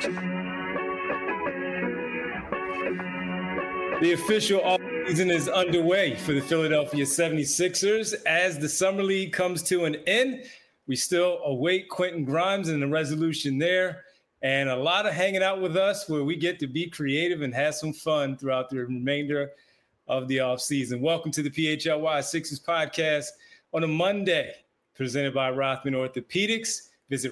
The official offseason is underway for the Philadelphia 76ers. As the Summer League comes to an end, we still await Quentin Grimes and the resolution there. And a lot of hanging out with us where we get to be creative and have some fun throughout the remainder of the offseason. Welcome to the PHLY Sixers podcast on a Monday, presented by Rothman Orthopedics. Visit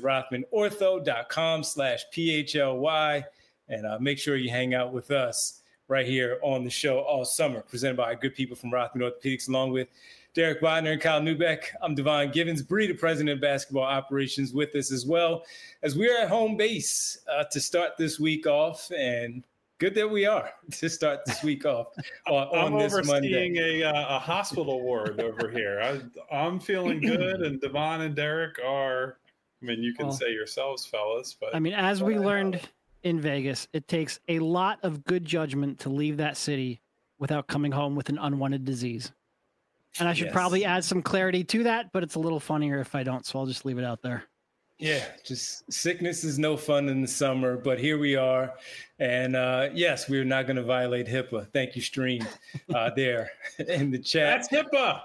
rothmanortho.com/PHLY and make sure you hang out with us right here on the show all summer, presented by good people from Rothman Orthopedics, along with Derek Bodner and Kyle Neubeck. I'm Devon Givens, Bree, the president of basketball operations, with us as well, as we're at home base to start this week off. And good that we are to start this week off on this Monday. I'm overseeing a hospital ward over here. I'm feeling good, and Devon and Derek are. I mean, you can say yourselves, fellas, but I mean, as we learned in Vegas, it takes a lot of good judgment to leave that city without coming home with an unwanted disease. And I should probably add some clarity to that, but it's a little funnier if I don't, so I'll just leave it out there. Yeah, just sickness is no fun in the summer, but here we are. And yes, we're not going to violate HIPAA. Thank you, Stream, there in the chat. That's HIPAA.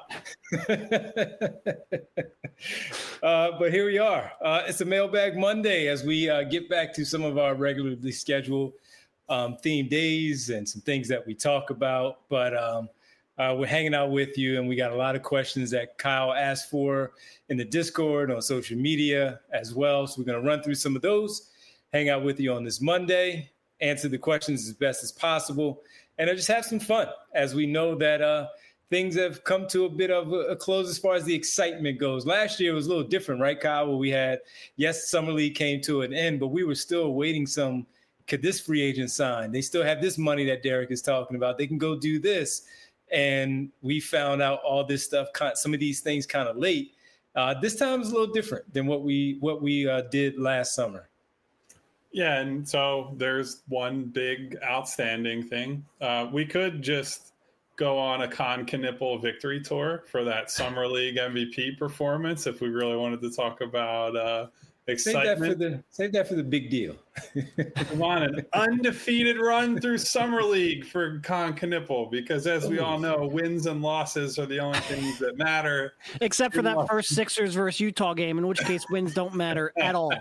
But here we are. It's a Mailbag Monday as we get back to some of our regularly scheduled theme days and some things that we talk about. But we're hanging out with you, and we got a lot of questions that Kyle asked for in the Discord, on social media as well. So we're going to run through some of those, hang out with you on this Monday, answer the questions as best as possible, and just have some fun, as we know that things have come to a bit of a close as far as the excitement goes. Last year was a little different, right, Kyle? Where we had, Summer League came to an end, but we were still waiting could this free agent sign? They still have this money that Derek is talking about. They can go do this. And we found out all this stuff, some of these things kind of late. This time is a little different than what we did last summer. Yeah, and so there's one big outstanding thing. We could just go on a Con Knipple victory tour for that Summer League MVP performance if we really wanted to talk about excitement. Save that for the big deal. Come on, an undefeated run through Summer League for Con Knipple, because as we all know, wins and losses are the only things that matter. Except for that first Sixers versus Utah game, in which case wins don't matter at all.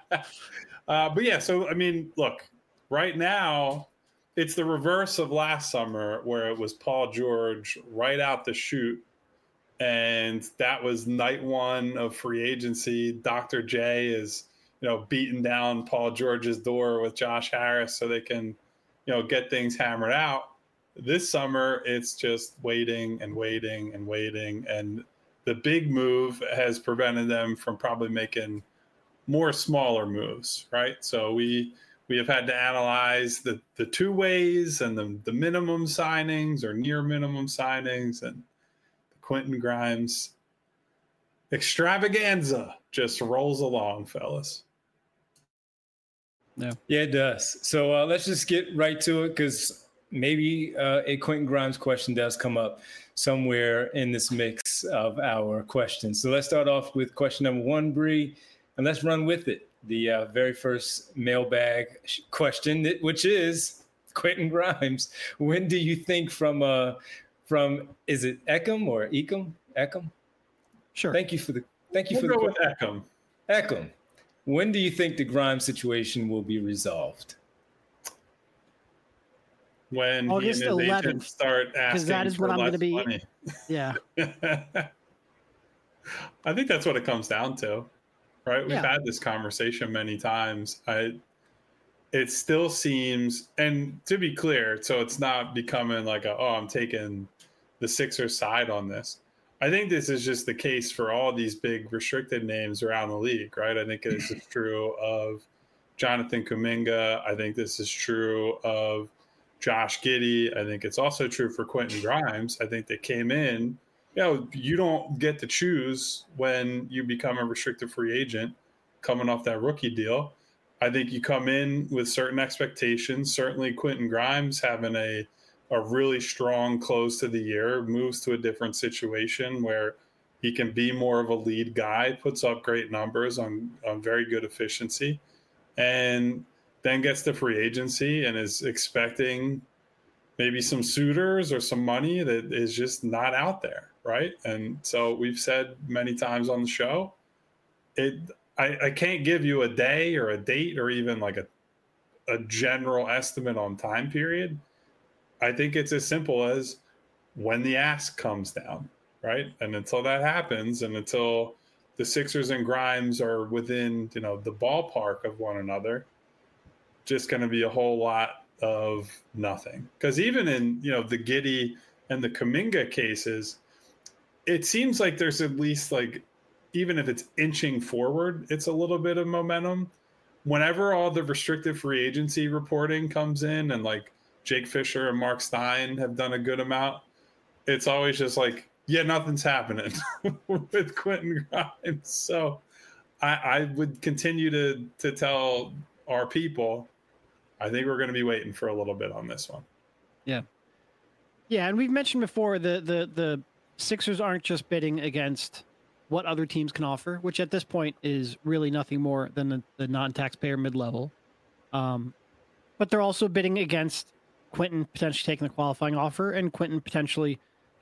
But yeah, so I mean, look, right now it's the reverse of last summer, where it was Paul George right out the chute. And that was night one of free agency. Dr. J is, beating down Paul George's door with Josh Harris so they can, get things hammered out. This summer, it's just waiting and waiting and waiting. And the big move has prevented them from probably making more smaller moves, right? So we have had to analyze the two ways and the minimum signings or near minimum signings, and Quentin Grimes extravaganza just rolls along, fellas. Yeah, it does. So let's just get right to it, because maybe a Quentin Grimes question does come up somewhere in this mix of our questions. So let's start off with question number one, Bree, and let's run with it. The very first mailbag question, which is Quentin Grimes. When do you think from is it Eckham or Eckham? Eckham? Sure. Thank you for the go with Eckham. Eckham. When do you think the Grimes situation will be resolved? When August he and his 11th, agent start asking, because that is what I'm going to be. Money. Yeah. I think that's what it comes down to, right? We've had this conversation many times. It still seems, and to be clear, so it's not becoming like I'm taking the Sixers side on this. I think this is just the case for all these big restricted names around the league, right? I think this is true of Jonathan Kuminga. I think this is true of Josh Giddey. I think it's also true for Quentin Grimes. I think they came in, you don't get to choose when you become a restricted free agent coming off that rookie deal. I think you come in with certain expectations. Certainly Quentin Grimes having a really strong close to the year, moves to a different situation where he can be more of a lead guy, puts up great numbers on very good efficiency. And then gets to free agency and is expecting maybe some suitors or some money that is just not out there, right? And so we've said many times on the show, I can't give you a day or a date or even like a general estimate on time period. I think it's as simple as when the ask comes down, right? And until that happens, and until the Sixers and Grimes are within, the ballpark of one another, just going to be a whole lot of nothing. Because even in, the Giddey and the Kuminga cases, it seems like there's at least like, even if it's inching forward, it's a little bit of momentum. Whenever all the restricted free agency reporting comes in and like Jake Fisher and Mark Stein have done a good amount, it's always just like, yeah, nothing's happening with Quentin Grimes. So I would continue to tell our people, I think we're going to be waiting for a little bit on this one. Yeah. Yeah, and we've mentioned before the Sixers aren't just bidding against what other teams can offer, which at this point is really nothing more than the non-taxpayer mid-level. But they're also bidding against Quentin potentially taking the qualifying offer and Quentin potentially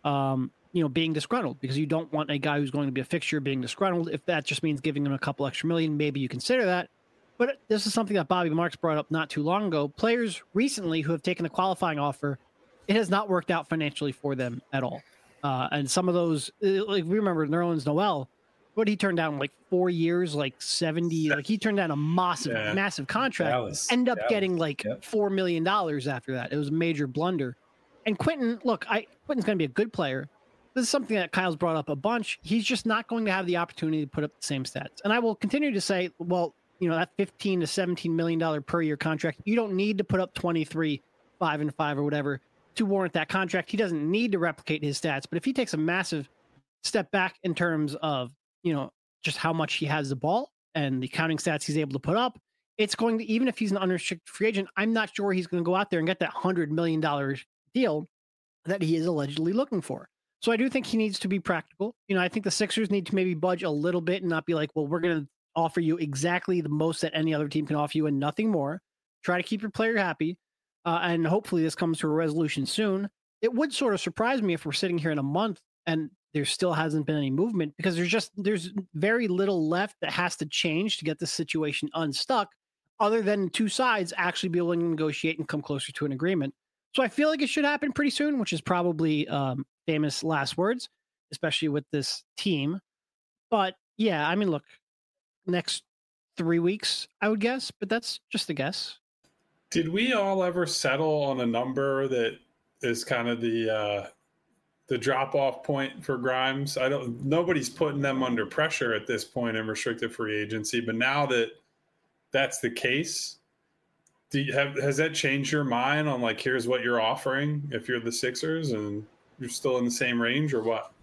being disgruntled, because you don't want a guy who's going to be a fixture being disgruntled. If that just means giving him a couple extra million, maybe you consider that. But this is something that Bobby Marks brought up not too long ago. Players recently who have taken the qualifying offer, it has not worked out financially for them at all. And some of those, like we remember Nerlens Noel, what he turned down, like 4 years, like 70, like he turned down a massive contract, ended up getting like $4 million after that. It was a major blunder. And Quentin, look, Quentin's going to be a good player. This is something that Kyle's brought up a bunch. He's just not going to have the opportunity to put up the same stats. And I will continue to say, well, that $15 to $17 million per year contract, you don't need to put up 23, 5-5 or whatever to warrant that contract. He doesn't need to replicate his stats. But if he takes a massive step back in terms of, just how much he has the ball and the counting stats he's able to put up, it's going to, even if he's an unrestricted free agent, I'm not sure he's going to go out there and get that $100 million deal that he is allegedly looking for. So I do think he needs to be practical. I think the Sixers need to maybe budge a little bit and not be like, well, we're going to offer you exactly the most that any other team can offer you and nothing more. Try to keep your player happy. And hopefully this comes to a resolution soon. It would sort of surprise me if we're sitting here in a month and there still hasn't been any movement, because there's very little left that has to change to get this situation unstuck, other than two sides actually be willing to negotiate and come closer to an agreement. So I feel like it should happen pretty soon, which is probably famous last words, especially with this team. But yeah, I mean, look, next 3 weeks, I would guess, but that's just a guess. Did we all ever settle on a number that is kind of the drop-off point for Grimes? Nobody's putting them under pressure at this point in restricted free agency, but now that that's the case, has that changed your mind on like, here's what you're offering if you're the Sixers and you're still in the same range, or what?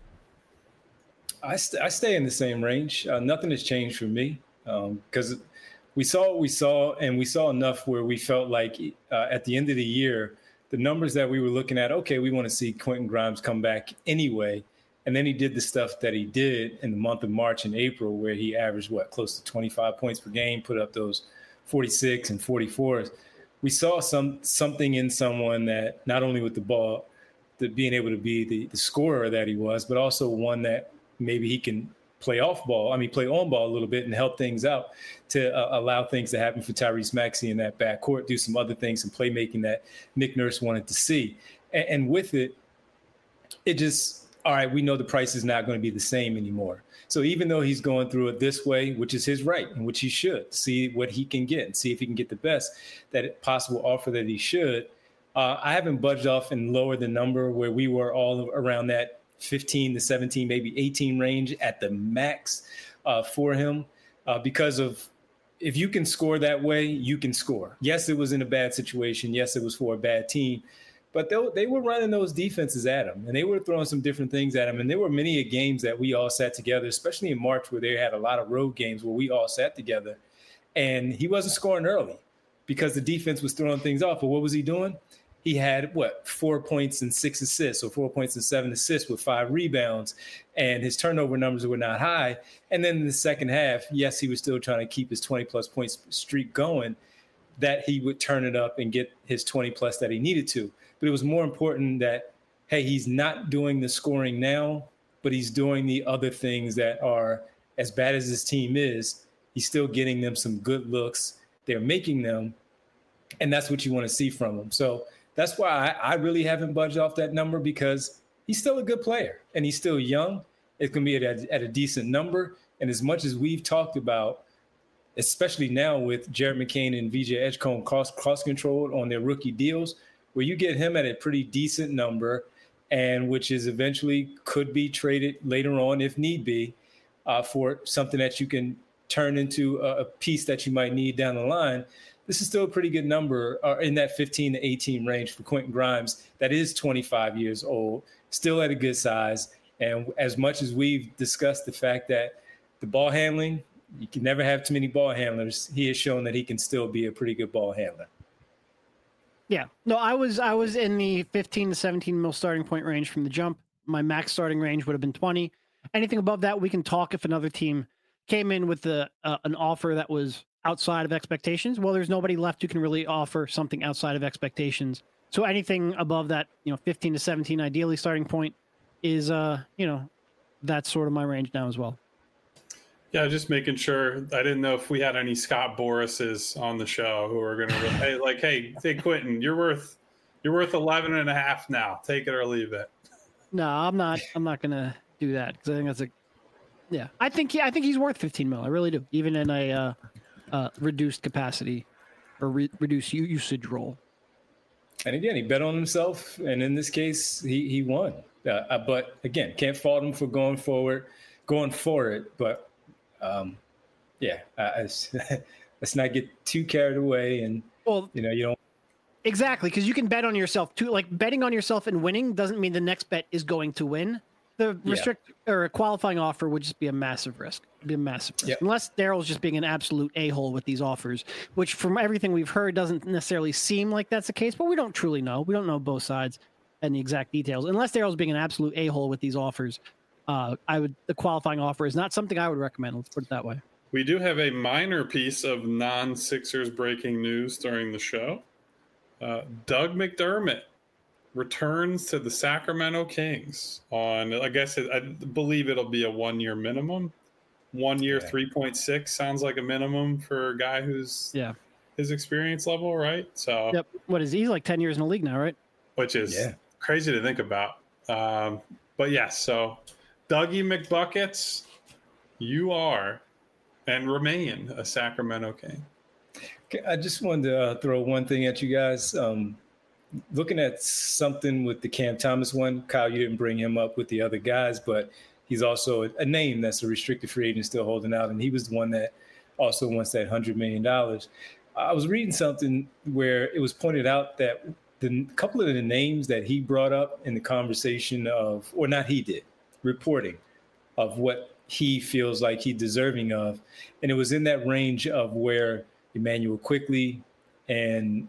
I stay in the same range. Nothing has changed for me, because we saw what we saw, and we saw enough where we felt like at the end of the year, the numbers that we were looking at, okay, we want to see Quentin Grimes come back anyway. And then he did the stuff that he did in the month of March and April, where he averaged, close to 25 points per game, put up those 46 and 44s. We saw something in someone that not only with the ball, that being able to be the scorer that he was, but also one that maybe he can play on ball a little bit and help things out to allow things to happen for Tyrese Maxey in that backcourt, do some other things, some playmaking that Nick Nurse wanted to see. And with it just, all right, we know the price is not going to be the same anymore. So even though he's going through it this way, which is his right, and which he should, see what he can get and see if he can get the best that possible offer that he should, I haven't budged off and lowered the number where we were all around that 15 to 17, maybe 18 range at the max for him, because of, if you can score that way, you can score. Yes, it was in a bad situation. Yes, it was for a bad team, but they were running those defenses at him, and they were throwing some different things at him. And there were many games that we all sat together, especially in March, where they had a lot of road games where we all sat together, and he wasn't scoring early because the defense was throwing things off. But what was he doing? He had 4 points and 6 assists, or 4 points and 7 assists with 5 rebounds, and his turnover numbers were not high. And then in the second half, yes, he was still trying to keep his 20-plus points streak going. that he would turn it up and get his 20 plus that he needed to. But it was more important that, hey, he's not doing the scoring now, but he's doing the other things that are, as bad as this team is, he's still getting them some good looks. They're making them, and that's what you want to see from him. So that's why I really haven't budged off that number, because he's still a good player and he's still young. It's going to be at a decent number. And as much as we've talked about, especially now with Jared McCain and VJ Edgecombe cross-controlled on their rookie deals, where you get him at a pretty decent number, and which is eventually could be traded later on if need be for something that you can turn into a piece that you might need down the line. This is still a pretty good number in that 15 to 18 range for Quentin Grimes. That is 25 years old, still at a good size. And as much as we've discussed the fact that the ball handling, you can never have too many ball handlers, he has shown that he can still be a pretty good ball handler. Yeah. No, I was in the 15 to 17 mil starting point range from the jump. My max starting range would have been 20. Anything above that, we can talk if another team came in with an offer that was outside of expectations. Well, there's nobody left who can really offer something outside of expectations. So anything above that, 15 to 17, ideally starting point is, that's sort of my range now as well. Yeah, just making sure. I didn't know if we had any Scott Borases on the show who are going to hey, Quentin, you're worth 11 and a half now. Take it or leave it. No, I'm not going to do that, because I think that's I think he's worth 15 mil. I really do, even in a reduced capacity or reduced usage role. And again, he bet on himself, and in this case, he won. But again, can't fault him for going for it. But let's not get too carried away, and you don't. Exactly, because you can bet on yourself too. Like, betting on yourself and winning doesn't mean the next bet is going to win. The or a qualifying offer would just be a massive risk. It'd be a massive risk. Yep. Unless Daryl's just being an absolute a-hole with these offers, which from everything we've heard doesn't necessarily seem like that's the case, but we don't truly know. We don't know both sides and the exact details. Unless Daryl's being an absolute a-hole with these offers, the qualifying offer is not something I would recommend. Let's put it that way. We do have a minor piece of non-Sixers breaking news during the show. Doug McDermott returns to the Sacramento Kings on, I believe it'll be a 1 year minimum. 1 year, 3.6 sounds like a minimum for a guy who's his experience level, right? So, yep. What is he? He's like 10 years in the league now, right? Which is crazy to think about. But yes, so Dougie McBuckets, you are and remain a Sacramento King. Okay, I just wanted to throw one thing at you guys. Looking at something with the Cam Thomas one, Kyle, you didn't bring him up with the other guys, but he's also a name that's a restricted free agent still holding out, and he was the one that also wants that $100 million. I was reading something where it was pointed out that the couple of the names that he brought up in the conversation of, or not he did, reporting of what he feels like he's deserving of, and it was in that range of where Emmanuel Quickley and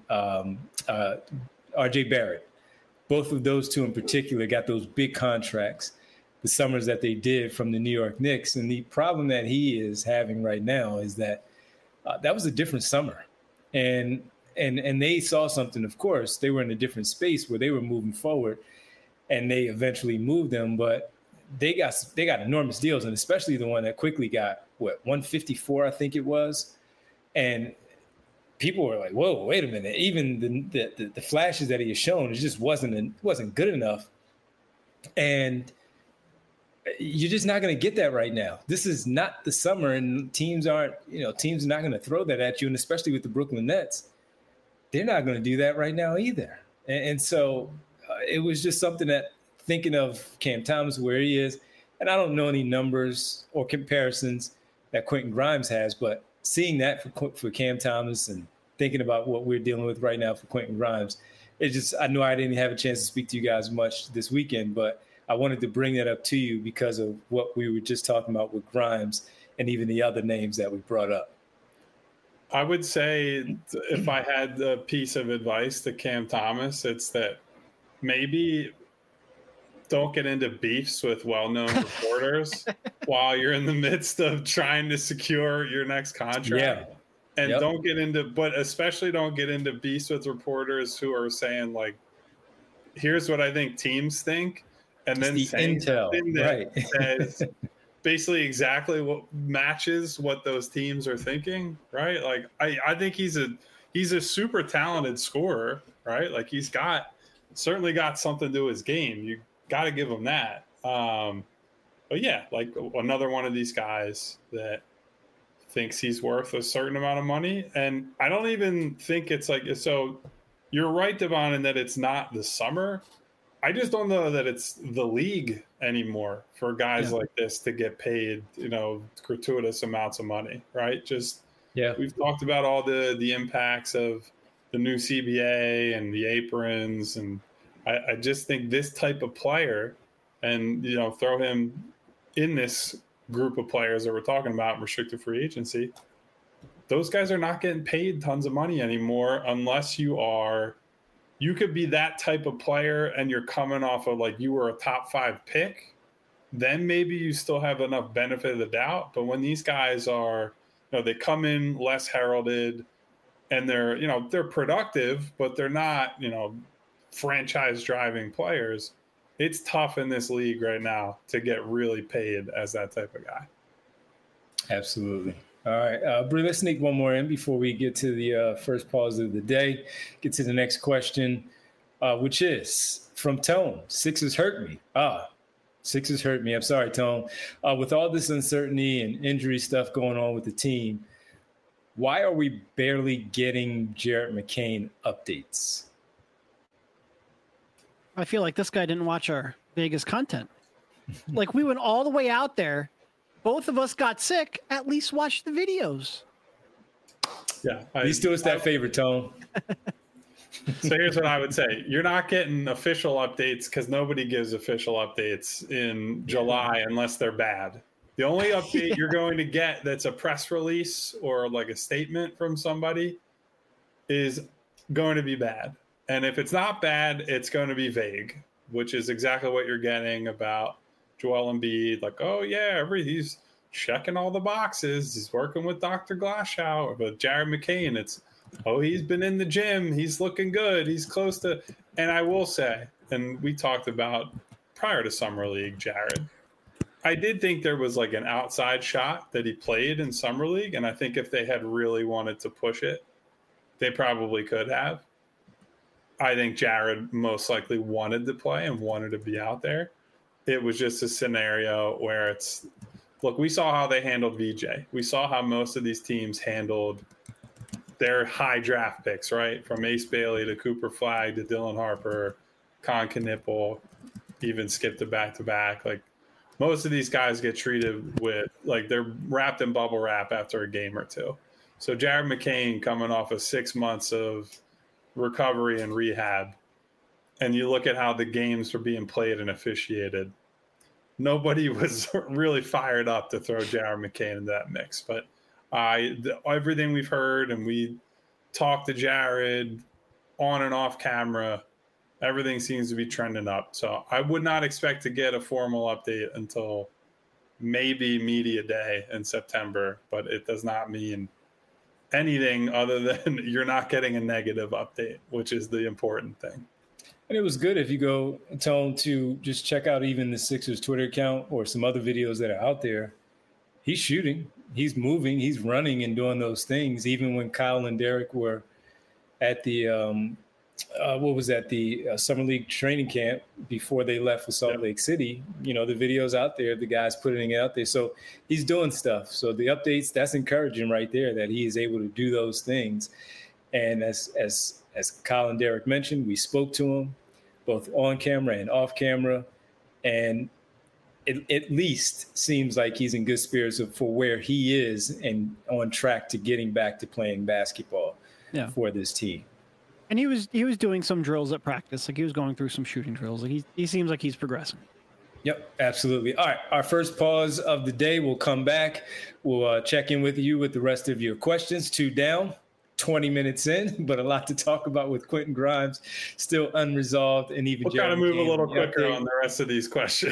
RJ Barrett, both of those two in particular, got those big contracts the summers that they did from the New York Knicks. And the problem that he is having right now is that that was a different summer. And they saw something, of course. They were in a different space where they were moving forward, and they eventually moved them. But they got enormous deals, and especially the one that Quickley got, 154, I think it was. And people were like, whoa, wait a minute. Even the flashes that he has shown, it just wasn't good enough. And you're just not going to get that right now. This is not the summer, and teams are not going to throw that at you. And especially with the Brooklyn Nets, they're not going to do that right now either. And so it was just something that, thinking of Cam Thomas, where he is, and I don't know any numbers or comparisons that Quentin Grimes has, but seeing that for Cam Thomas and thinking about what we're dealing with right now for Quentin Grimes, I know I didn't have a chance to speak to you guys much this weekend, but I wanted to bring that up to you because of what we were just talking about with Grimes and even the other names that we brought up. I would say if I had a piece of advice to Cam Thomas, it's that maybe don't get into beefs with well-known reporters while you're in the midst of trying to secure your next contract. And don't get into, but especially don't get into beefs with reporters who are saying like, here's what I think teams think. And then the intel, that says basically exactly what matches what those teams are thinking. Right. Like I think he's a super talented scorer, right? Like he's certainly got something to his game. You got to give him that. But yeah, like another one of these guys that thinks he's worth a certain amount of money. And I don't even think it's like, so you're right, Devon, in that it's not the summer. I just don't know that it's the league anymore for guys like this to get paid, gratuitous amounts of money, right? We've talked about all the impacts of the new CBA and the aprons. And I just think this type of player and, throw him in this group of players that we're talking about, restricted free agency, those guys are not getting paid tons of money anymore unless you could be that type of player and you're coming off of like you were a top 5 pick, then maybe you still have enough benefit of the doubt. But when these guys are, they come in less heralded and they're productive, but they're not, franchise driving players. It's tough in this league right now to get really paid as that type of guy. Absolutely. All right, Bree, let's sneak one more in before we get to the first pause of the day. Get to the next question, which is from Tone. Sixers hurt me. Sixers hurt me. I'm sorry, Tone. With all this uncertainty and injury stuff going on with the team, why are we barely getting Jared McCain updates? I feel like this guy didn't watch our Vegas content. Like we went all the way out there. Both of us got sick. At least watch the videos. Yeah. He still is that favorite, Tone. So here's what I would say. You're not getting official updates because nobody gives official updates in July unless they're bad. The only update you're going to get that's a press release or like a statement from somebody is going to be bad. And if it's not bad, it's going to be vague, which is exactly what you're getting about Joel Embiid. Like, oh, yeah, he's checking all the boxes. He's working with Dr. Glashow. But Jared McCain, he's been in the gym. He's looking good. He's close to. And I will say, and we talked about prior to Summer League, Jared, I did think there was like an outside shot that he played in Summer League. And I think if they had really wanted to push it, they probably could have. I think Jared most likely wanted to play and wanted to be out there. It was just a scenario where look, we saw how they handled VJ. We saw how most of these teams handled their high draft picks, right? From Ace Bailey to Cooper Flagg to Dylan Harper, Con Knipple, even skipped it back-to-back. Like most of these guys get treated with, like they're wrapped in bubble wrap after a game or two. So Jared McCain coming off of 6 months of recovery and rehab, and you look at how the games were being played and officiated, nobody was really fired up to throw Jared McCain into that mix. But everything we've heard, and we talked to Jared on and off camera, everything seems to be trending up. So I would not expect to get a formal update until maybe media day in September, but it does not mean anything other than you're not getting a negative update, which is the important thing. And it was good if you go, Tone, to just check out even the Sixers Twitter account or some other videos that are out there. He's shooting, he's moving, he's running and doing those things. Even when Kyle and Derek were at the, the Summer League training camp before they left for Salt Lake City, the video's out there, the guys putting it out there. So he's doing stuff. So the updates, that's encouraging right there that he is able to do those things. And as Kyle and Derek mentioned, we spoke to him both on camera and off camera. And it at least seems like he's in good spirits for where he is and on track to getting back to playing basketball for this team. And he was doing some drills at practice. Like he was going through some shooting drills. Like he seems like he's progressing. Yep, absolutely. All right, our first pause of the day. We'll come back. We'll check in with you with the rest of your questions. 2 down, 20 minutes in, but a lot to talk about with Quentin Grimes still unresolved, and even we'll kind of move a little quicker on the rest of these questions.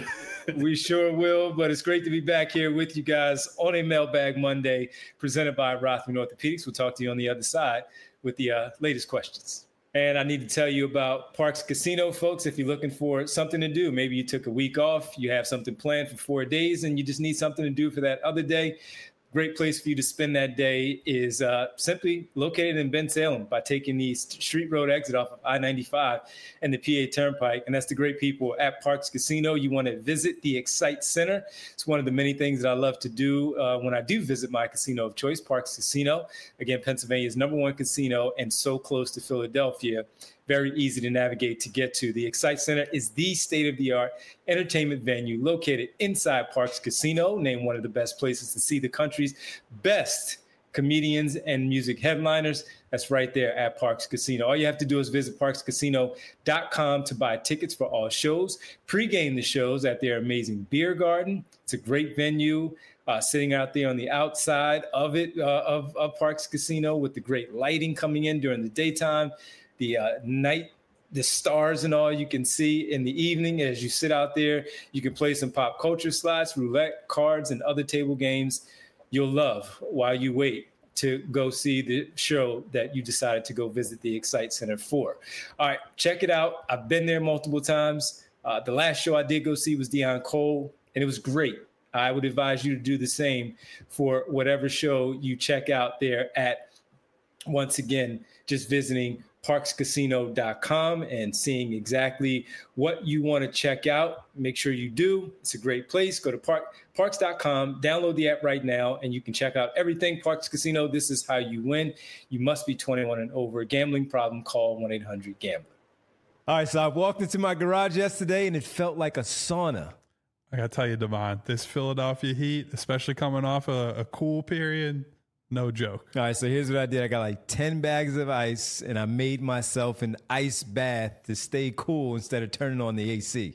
We sure will. But it's great to be back here with you guys on a Mailbag Monday presented by Rothman Orthopedics. We'll talk to you on the other side with the latest questions. And I need to tell you about Parx Casino, folks. If you're looking for something to do, maybe you took a week off, you have something planned for 4 days, and you just need something to do for that other day. Great place for you to spend that day is simply located in Bensalem by taking the Street Road exit off of I-95 and the PA Turnpike. And that's the great people at Parx Casino. You want to visit the Excite Center. It's one of the many things that I love to do when I do visit my casino of choice, Parx Casino. Again, Pennsylvania's #1 casino and so close to Philadelphia. Very easy to navigate to get to. The Excite Center is the state-of-the-art entertainment venue located inside Parx Casino, named one of the best places to see the country's best comedians and music headliners. That's right there at Parx Casino. All you have to do is visit parxcasino.com to buy tickets for all shows, pregame the shows at their amazing beer garden. It's a great venue. Sitting out there on the outside of it, of Parx Casino with the great lighting coming in during the daytime. The night, the stars and all you can see in the evening as you sit out there. You can play some pop culture slots, roulette, cards, and other table games you'll love while you wait to go see the show that you decided to go visit the Excite Center for. All right, check it out. I've been there multiple times. The last show I did go see was Deon Cole, and it was great. I would advise you to do the same for whatever show you check out there at, once again, just visiting parxcasino.com and seeing exactly what you want to check out. Make sure you do. It's a great place. Go to parx.com, download the app right now, and you can check out everything. Parx Casino, this is how you win. You must be 21 and over. Gambling problem, call 1-800-GAMBLER. All right, so I walked into my garage yesterday, and it felt like a sauna. I got to tell you, Devon, this Philadelphia heat, especially coming off a cool period, no joke. All right, so here's what I did. I got like 10 bags of ice, and I made myself an ice bath to stay cool instead of turning on the AC.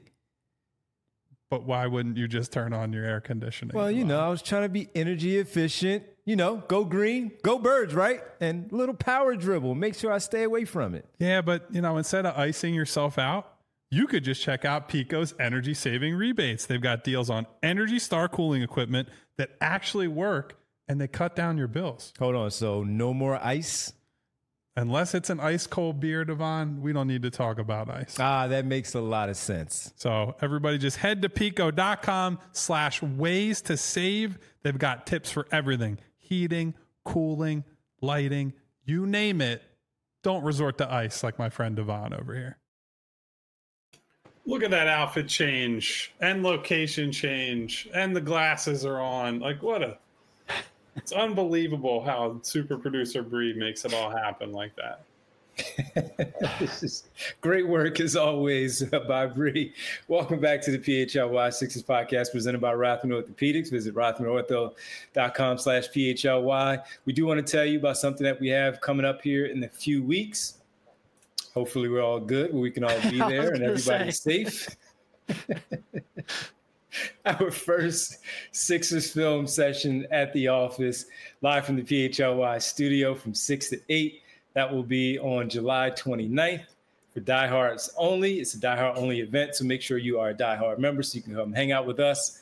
But why wouldn't you just turn on your air conditioning? Well, you know, I was trying to be energy efficient. You know, go green, go birds, right? And a little power dribble. Make sure I stay away from it. Yeah, but, you know, instead of icing yourself out, you could just check out Pico's energy saving rebates. They've got deals on Energy Star cooling equipment that actually work, and they cut down your bills. Hold on. So no more ice? Unless it's an ice cold beer, Devon, we don't need to talk about ice. That makes a lot of sense. So everybody just head to pico.com/ways to save. They've got tips for everything. Heating, cooling, lighting, you name it. Don't resort to ice like my friend Devon over here. Look at that outfit change and location change and the glasses are on. Like it's unbelievable how super producer Bree makes it all happen like that. This is great work as always by Bree. Welcome back to the PHLY Sixers podcast presented by Rothman Orthopedics. Visit rothmanortho.com/PHLY. We do want to tell you about something that we have coming up here in a few weeks. Hopefully we're all good, where we can all be there and everybody's safe. Our first Sixers film session at the office, live from the PHLY studio from 6 to 8. That will be on July 29th for diehards only. It's a diehard only event, so make sure you are a diehard member so you can come hang out with us.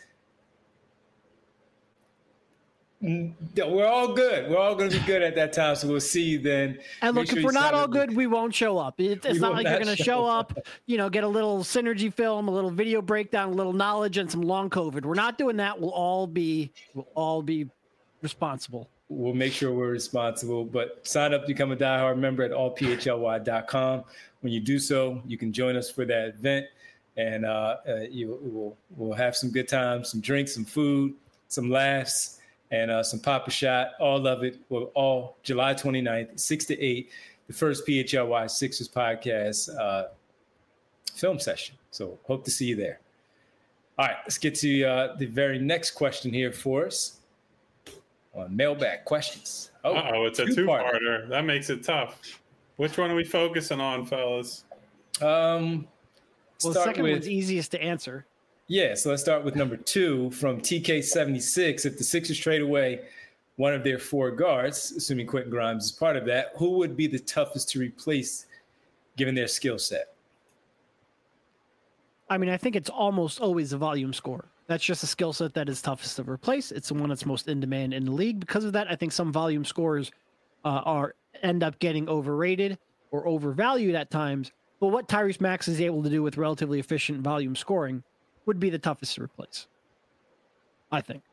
We're all good. We're all going to be good at that time, so we'll see you then. And look, if we're not all good, we won't show up. It's not like you're going to show up, you know, get a little synergy film, a little video breakdown, a little knowledge, and some long COVID. We're not doing that. We'll all be responsible. We'll make sure we're responsible, but sign up to become a diehard member at allphly.com. When you do so, you can join us for that event, and we'll have some good times, some drinks, some food, some laughs, and some Papa Shot. All of it will all July 29th, 6 to 8, the first PHLY Sixers podcast film session. So hope to see you there. All right, let's get to the very next question here for us on mailbag questions. It's a two-parter. That makes it tough. Which one are we focusing on, fellas? The second one's easiest to answer. Yeah, so let's start with number 2 from TK76. If the Sixers trade away one of their 4 guards, assuming Quentin Grimes is part of that, who would be the toughest to replace given their skill set? I mean, I think it's almost always a volume score. That's just a skill set that is toughest to replace. It's the one that's most in demand in the league. Because of that, I think some volume scores end up getting overrated or overvalued at times. But what Tyrese Maxey is able to do with relatively efficient volume scoring would be the toughest to replace, I think.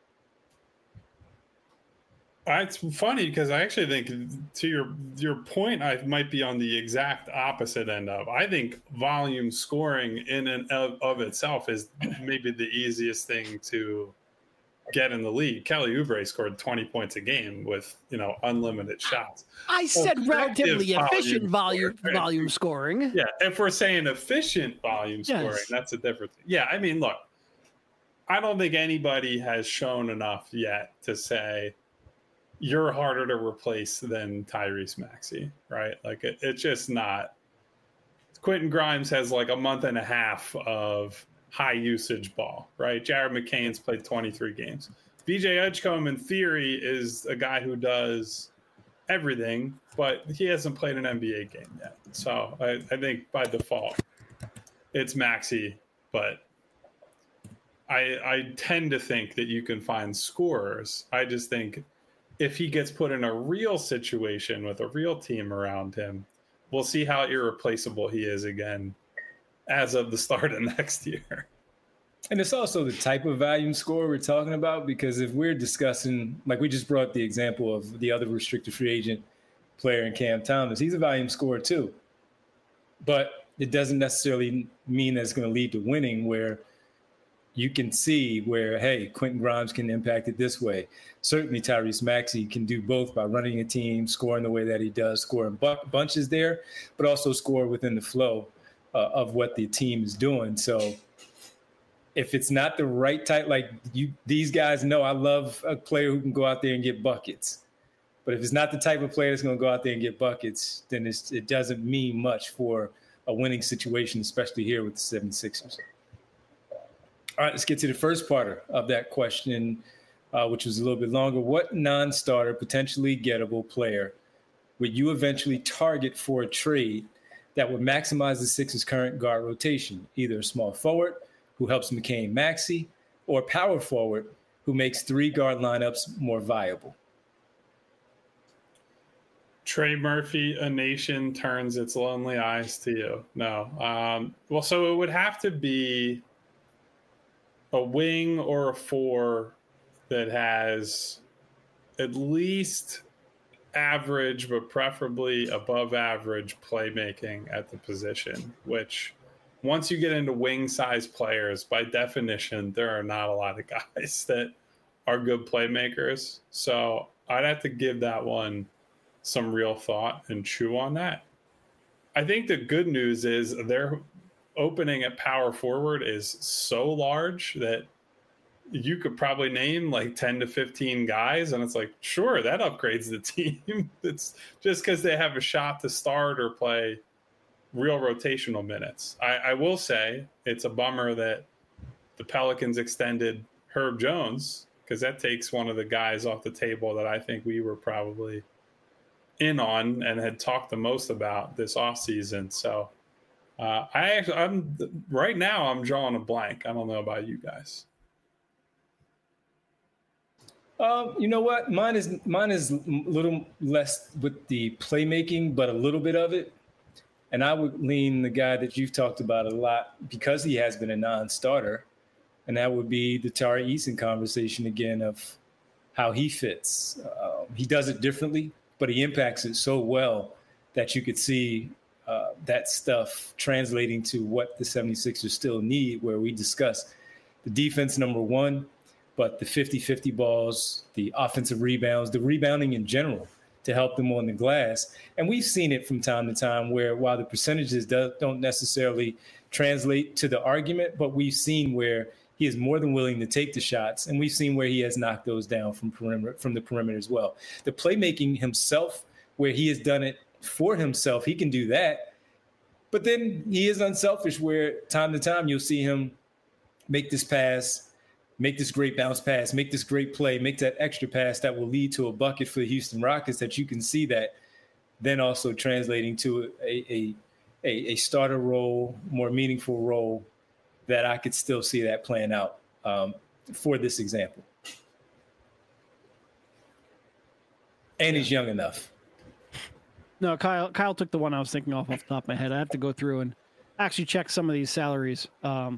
It's funny because I actually think, to your point, I might be on the exact opposite end of. I think volume scoring in and of itself is maybe the easiest thing to get in the league. Kelly Oubre scored 20 points a game with, unlimited shots. I said relatively efficient volume scoring. Yeah, if we're saying efficient volume scoring, that's a different thing. Yeah, I mean, look, I don't think anybody has shown enough yet to say you're harder to replace than Tyrese Maxey, right? Like, it's just not. Quentin Grimes has like a month and a half of high usage ball, right? Jared McCain's played 23 games. BJ Edgecombe, in theory, is a guy who does everything, but he hasn't played an NBA game yet. So I think by default, it's Maxey, but I tend to think that you can find scorers. I just think if he gets put in a real situation with a real team around him, we'll see how irreplaceable he is again as of the start of next year. And it's also the type of volume score we're talking about, because if we're discussing, like we just brought the example of the other restricted free agent player in Cam Thomas, he's a volume scorer too. But it doesn't necessarily mean that it's going to lead to winning, where you can see where, hey, Quentin Grimes can impact it this way. Certainly Tyrese Maxey can do both by running a team, scoring the way that he does, scoring bunches there, but also score within the flow of what the team is doing. So if it's not the right type, like these guys know I love a player who can go out there and get buckets. But if it's not the type of player that's going to go out there and get buckets, then it doesn't mean much for a winning situation, especially here with the 76ers. All right, let's get to the first part of that question, which was a little bit longer. What non-starter, potentially gettable player would you eventually target for a trade that would maximize the Sixers' current guard rotation? Either a small forward who helps McCain Maxey, or a power forward who makes 3 guard lineups more viable. Trey Murphy, a nation turns its lonely eyes to you. No. Well, so it would have to be a wing or a 4 that has at least average, but preferably above average playmaking at the position, which once you get into wing size players, by definition, there are not a lot of guys that are good playmakers. So I'd have to give that one some real thought and chew on that. I think the good news is their opening at power forward is so large that you could probably name like 10 to 15 guys, and it's like, sure, that upgrades the team. It's just because they have a shot to start or play real rotational minutes. I will say it's a bummer that the Pelicans extended Herb Jones, because that takes one of the guys off the table that I think we were probably in on and had talked the most about this offseason. So I'm right now I'm drawing a blank. I don't know about you guys. You know what? Mine is a little less with the playmaking, but a little bit of it. And I would lean the guy that you've talked about a lot because he has been a non-starter. And that would be the Tari Eason conversation again of how he fits. He does it differently, but he impacts it so well that you could see that stuff translating to what the 76ers still need, where we discuss the defense, number one, but the 50-50 balls, the offensive rebounds, the rebounding in general to help them on the glass. And we've seen it from time to time where while the percentages don't necessarily translate to the argument, but we've seen where he is more than willing to take the shots, and we've seen where he has knocked those down from the perimeter as well. The playmaking himself, where he has done it for himself, he can do that. But then he is unselfish where time to time you'll see him make this pass, make this great bounce pass, make this great play, make that extra pass that will lead to a bucket for the Houston Rockets, that you can see that then also translating to a starter role, more meaningful role that I could still see that playing out for this example. And he's young enough. No, Kyle took the one I was thinking off the top of my head. I have to go through and actually check some of these salaries. Yeah.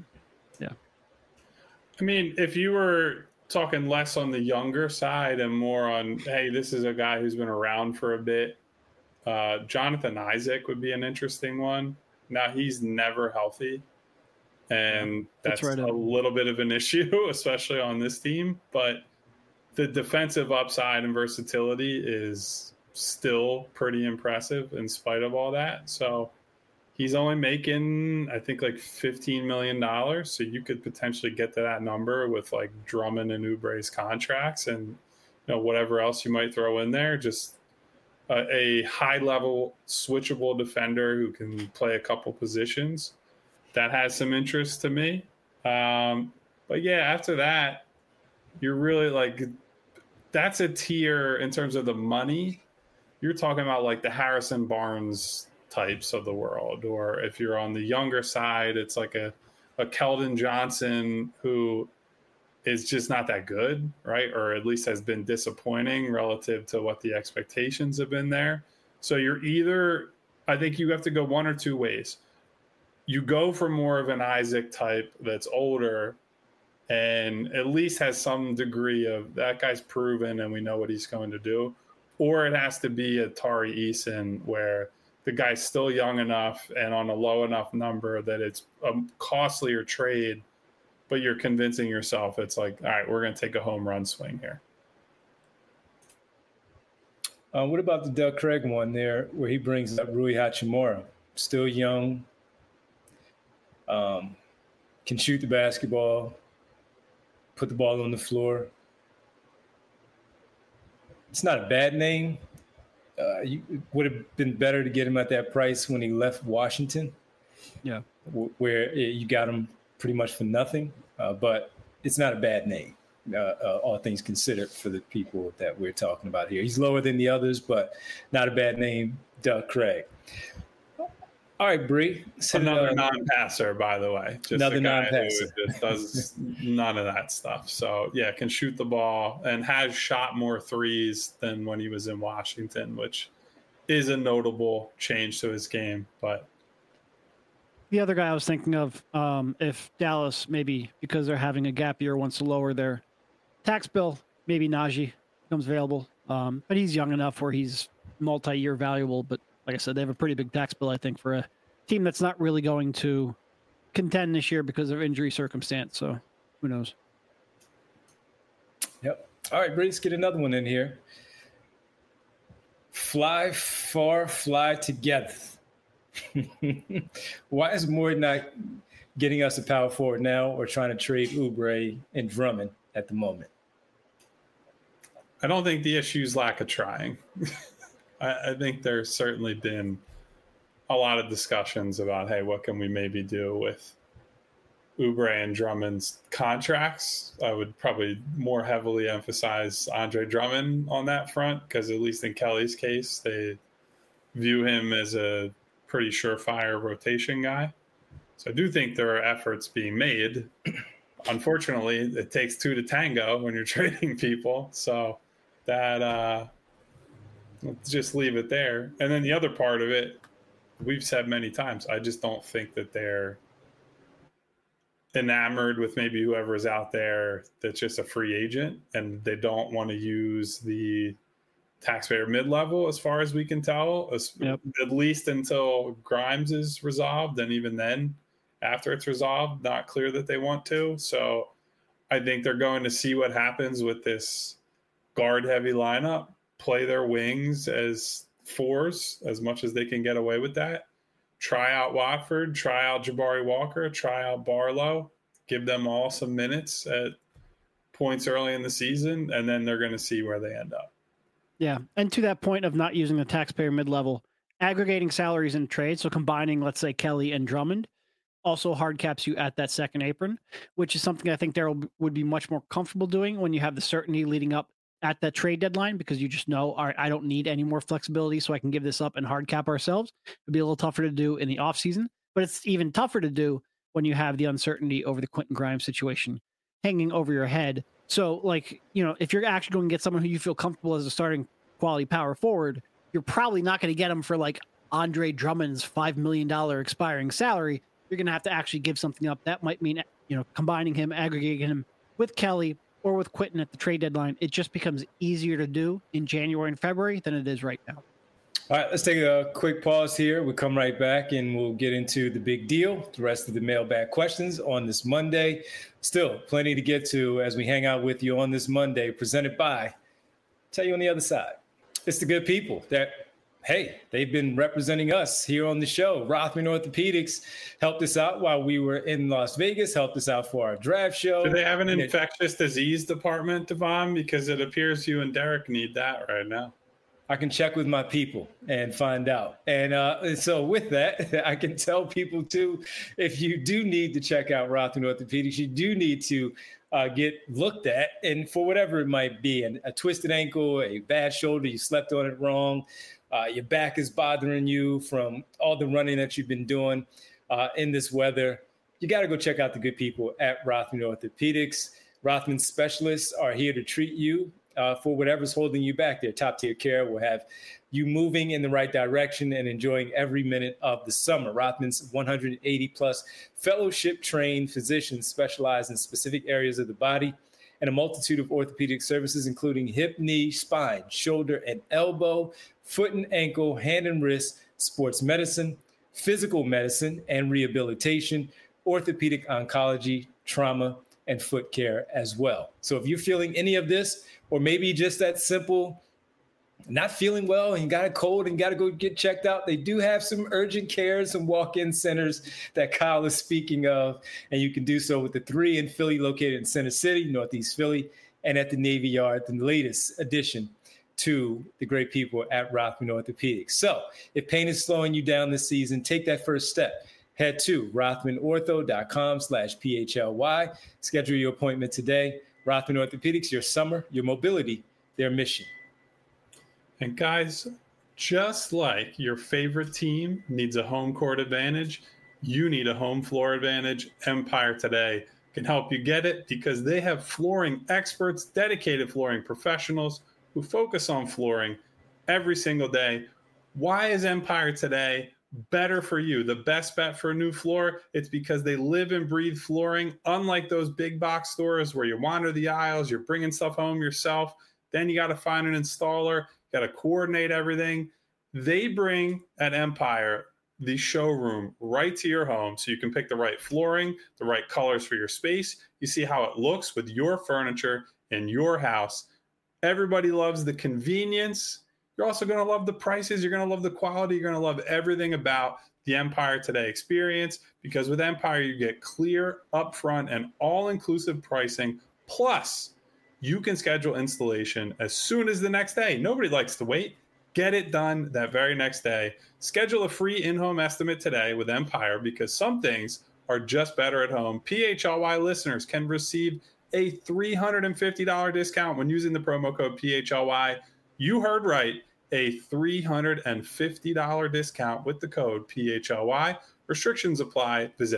I mean, if you were talking less on the younger side and more on, hey, this is a guy who's been around for a bit, Jonathan Isaac would be an interesting one. Now, he's never healthy, and that's right, a little bit of an issue, especially on this team. But the defensive upside and versatility is still pretty impressive in spite of all that. So he's only making, I think, like $15 million. So you could potentially get to that number with like Drummond and Oubre's contracts and whatever else you might throw in there. Just a high-level switchable defender who can play a couple positions. That has some interest to me. But yeah, after that, you're really like, that's a tier in terms of the money. You're talking about like the Harrison Barnes types of the world, or if you're on the younger side, it's like a Keldon Johnson who is just not that good, right? Or at least has been disappointing relative to what the expectations have been there. So you're either, I think you have to go one or two ways. You go for more of an Isaac type that's older and at least has some degree of that guy's proven and we know what he's going to do. Or it has to be a Tari Eason where the guy's still young enough and on a low enough number that it's a costlier trade, but you're convincing yourself it's like, all right, we're going to take a home run swing here. What about the Doug Craig one there where he brings up Rui Hachimura? Still young, can shoot the basketball, put the ball on the floor. It's not a bad name. It would have been better to get him at that price when he left Washington. Yeah. Where you got him pretty much for nothing. But it's not a bad name, all things considered, for the people that we're talking about here. He's lower than the others, but not a bad name, Doug Craig. All right, Bree. Another non-passer, by the way. Just another a guy non-passer who just does none of that stuff. So, yeah, can shoot the ball and has shot more threes than when he was in Washington, which is a notable change to his game. But the other guy I was thinking of, if Dallas, maybe because they're having a gap year, wants to lower their tax bill, maybe Najee becomes available. But he's young enough where he's multi-year valuable. But like I said, they have a pretty big tax bill, I think, for a team that's not really going to contend this year because of injury circumstance. So who knows? Yep. All right, Bree, let's get another one in here. Fly far, fly together. Why is Moore not getting us a power forward now or trying to trade Oubre and Drummond at the moment? I don't think the issue is lack of trying. I think there's certainly been a lot of discussions about, hey, what can we maybe do with Oubre and Drummond's contracts? I would probably more heavily emphasize Andre Drummond on that front because at least in Kelly's case, they view him as a pretty surefire rotation guy. So I do think there are efforts being made. Unfortunately, it takes two to tango when you're trading people. So that let's just leave it there. And then the other part of it, we've said many times, I just don't think that they're enamored with maybe whoever's out there that's just a free agent and they don't want to use the taxpayer mid-level as far as we can tell, at least until Grimes is resolved. And even then, after it's resolved, not clear that they want to. So I think they're going to see what happens with this guard-heavy lineup, play their wings as fours as much as they can get away with that. Try out Watford, try out Jabari Walker, try out Barlow, give them all some minutes at points early in the season, and then they're going to see where they end up. Yeah, and to that point of not using the taxpayer mid-level, aggregating salaries in trade, so combining, let's say, Kelly and Drummond, also hard caps you at that second apron, which is something I think Daryl would be much more comfortable doing when you have the certainty leading up at that trade deadline, because you just know, all right, I don't need any more flexibility, so I can give this up and hard cap ourselves. It'd be a little tougher to do in the offseason, but it's even tougher to do when you have the uncertainty over the Quentin Grimes situation hanging over your head. So, like, if you're actually going to get someone who you feel comfortable as a starting quality power forward, you're probably not going to get him for like Andre Drummond's $5 million expiring salary. You're going to have to actually give something up. That might mean, combining him, aggregating him with Kelly or with Quentin at the trade deadline. It just becomes easier to do in January and February than it is right now. All right, let's take a quick pause here. We'll come right back and we'll get into the big deal, the rest of the mailbag questions on this Monday. Still plenty to get to as we hang out with you on this Monday, presented by, tell you on the other side, it's the good people that, hey, they've been representing us here on the show. Rothman Orthopedics helped us out while we were in Las Vegas, helped us out for our draft show. Do they have an infectious disease department, Devon? Because it appears you and Derek need that right now. I can check with my people and find out. And so with that, I can tell people too, if you do need to check out Rothman Orthopedics, you do need to get looked at. And for whatever it might be, a twisted ankle, a bad shoulder, you slept on it wrong, your back is bothering you from all the running that you've been doing in this weather, you got to go check out the good people at Rothman Orthopedics. Rothman specialists are here to treat you for whatever's holding you back. Their top-tier care will have you moving in the right direction and enjoying every minute of the summer. Rothman's 180-plus fellowship-trained physicians specialize in specific areas of the body and a multitude of orthopedic services, including hip, knee, spine, shoulder, and elbow, foot and ankle, hand and wrist, sports medicine, physical medicine and rehabilitation, orthopedic oncology, trauma, and foot care as well. So if you're feeling any of this, or maybe just that simple, not feeling well and you got a cold and got to go get checked out, they do have some urgent care, some walk-in centers that Kyle is speaking of, and you can do so with the 3 in Philly located in Center City, Northeast Philly, and at the Navy Yard, the latest addition to the great people at Rothman Orthopedics. So if pain is slowing you down this season, take that first step. Head to rothmanortho.com/PHLY. Schedule your appointment today. Rothman Orthopedics, your summer, your mobility, their mission. And guys, just like your favorite team needs a home court advantage, you need a home floor advantage. Empire Today can help you get it because they have flooring experts, dedicated flooring professionals who focus on flooring every single day. Why is Empire Today better for you? The best bet for a new floor? It's because they live and breathe flooring. Unlike those big box stores where you wander the aisles, you're bringing stuff home yourself, then you got to find an installer, got to coordinate everything. They bring at Empire the showroom right to your home so you can pick the right flooring, the right colors for your space. You see how it looks with your furniture in your house. Everybody loves the convenience. You're also going to love the prices. You're going to love the quality. You're going to love everything about the Empire Today experience, because with Empire, you get clear, upfront, and all-inclusive pricing. Plus, you can schedule installation as soon as the next day. Nobody likes to wait. Get it done that very next day. Schedule a free in-home estimate today with Empire, because some things are just better at home. PHLY listeners can receive a $350 discount when using the promo code PHLY. You heard right, a $350 discount with the code PHLY. Restrictions apply. Visit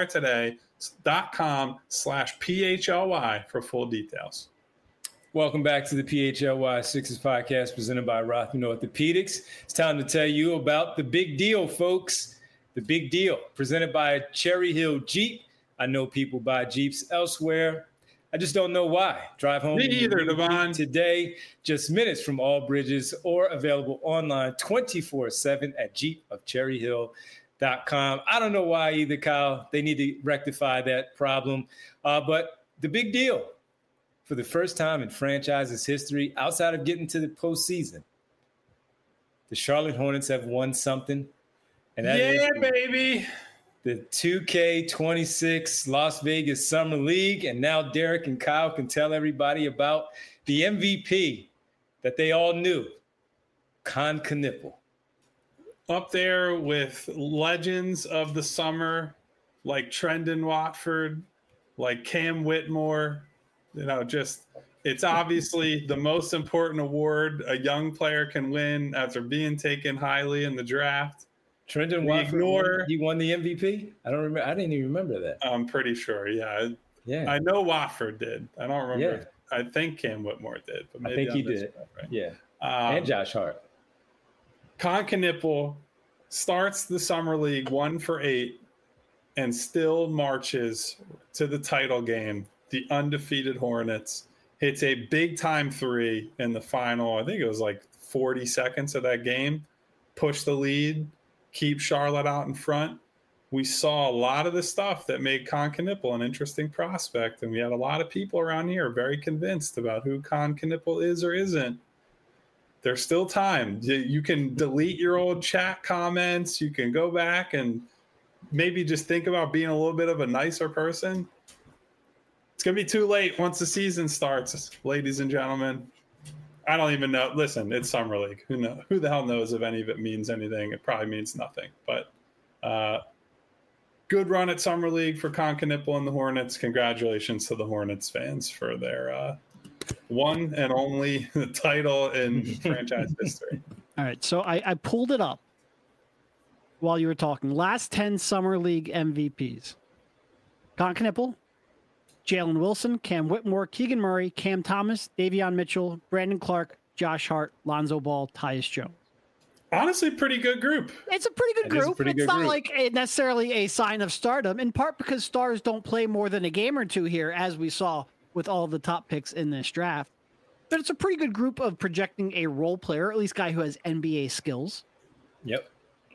empiretoday.com/PHLY for full details. Welcome back to the PHLY Sixers podcast presented by Rothman Orthopedics. It's time to tell you about the big deal, folks. The big deal presented by Cherry Hill Jeep. I know people buy Jeeps elsewhere. I just don't know why. Drive home Me either, Devon. Today, just minutes from all bridges, or available online 24/7 at jeepofcherryhill.com. I don't know why either, Kyle. They need to rectify that problem. But the big deal, for the first time in franchise's history, outside of getting to the postseason, the Charlotte Hornets have won something. And that is baby. The 2K26 Las Vegas Summer League. And now Derek and Kyle can tell everybody about the MVP that they all knew, Kon Knueppel. Up there with legends of the summer, like Trendon Watford, like Cam Whitmore. It's obviously the most important award a young player can win after being taken highly in the draft. Trendon Watford, he won the MVP? I don't remember. I didn't even remember that. I'm pretty sure. Yeah. I know Watford did. I don't remember. Yeah. I think Cam Whitmore did. But maybe I think he did. Right. Yeah. And Josh Hart. Con Knipple starts the Summer League 1-for-8 and still marches to the title game. The undefeated Hornets hits a big time 3 in the final. I think it was like 40 seconds of that game. Push the lead, keep Charlotte out in front. We saw a lot of the stuff that made Con Knipple an interesting prospect, and we had a lot of people around here very convinced about who Con Knipple is or isn't. There's still time. You can delete your old chat comments. You can go back and maybe just think about being a little bit of a nicer person. It's going to be too late once the season starts, ladies and gentlemen. I don't even know. Listen, it's Summer League. Who the hell knows if any of it means anything? It probably means nothing. But good run at Summer League for Con Knipple and the Hornets. Congratulations to the Hornets fans for their one and only title in franchise history. All right, so I pulled it up while you were talking. Last 10 Summer League MVPs. Con Knipple, Jalen Wilson, Cam Whitmore, Keegan Murray, Cam Thomas, Davion Mitchell, Brandon Clark, Josh Hart, Lonzo Ball, Tyus Jones. Honestly, pretty good group. It's a pretty good group. It's not like necessarily a sign of stardom, in part because stars don't play more than a game or two here, as we saw with all the top picks in this draft. But it's a pretty good group of projecting a role player, at least guy who has NBA skills. Yep.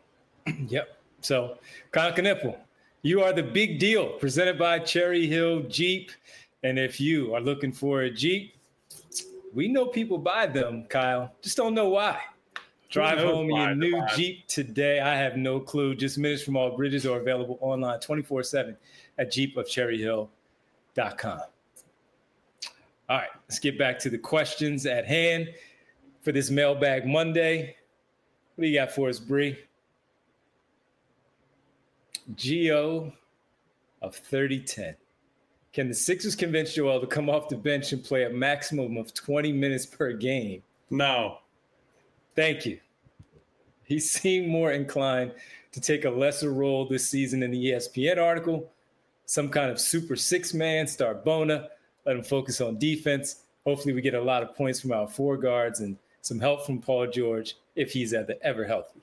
So, Con Knipple, you are the big deal, presented by Cherry Hill Jeep. And if you are looking for a Jeep, we know people buy them, Kyle. Just don't know why. Drive home your new Jeep today. I have no clue. Just minutes from all bridges are available online 24/7 at jeepofcherryhill.com. All right, let's get back to the questions at hand for this Mailbag Monday. What do you got for us, Bree? Geo of 30-10. Can the Sixers convince Joel to come off the bench and play a maximum of 20 minutes per game? No. Thank you. He seemed more inclined to take a lesser role this season in the ESPN article. Some kind of super six-man, start Bona, let him focus on defense. Hopefully we get a lot of points from our four guards and some help from Paul George if he's ever healthy.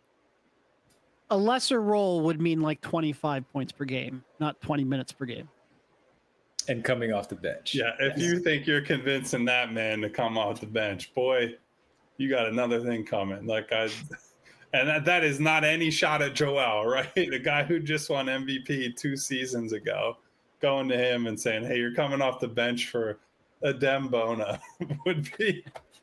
A lesser role would mean like 25 points per game, not 20 minutes per game. And coming off the bench. Yeah, if you think you're convincing that man to come off the bench, boy, you got another thing coming. And that is not any shot at Joel, right? The guy who just won MVP 2 seasons ago, going to him and saying, hey, you're coming off the bench for Adem Bona would be...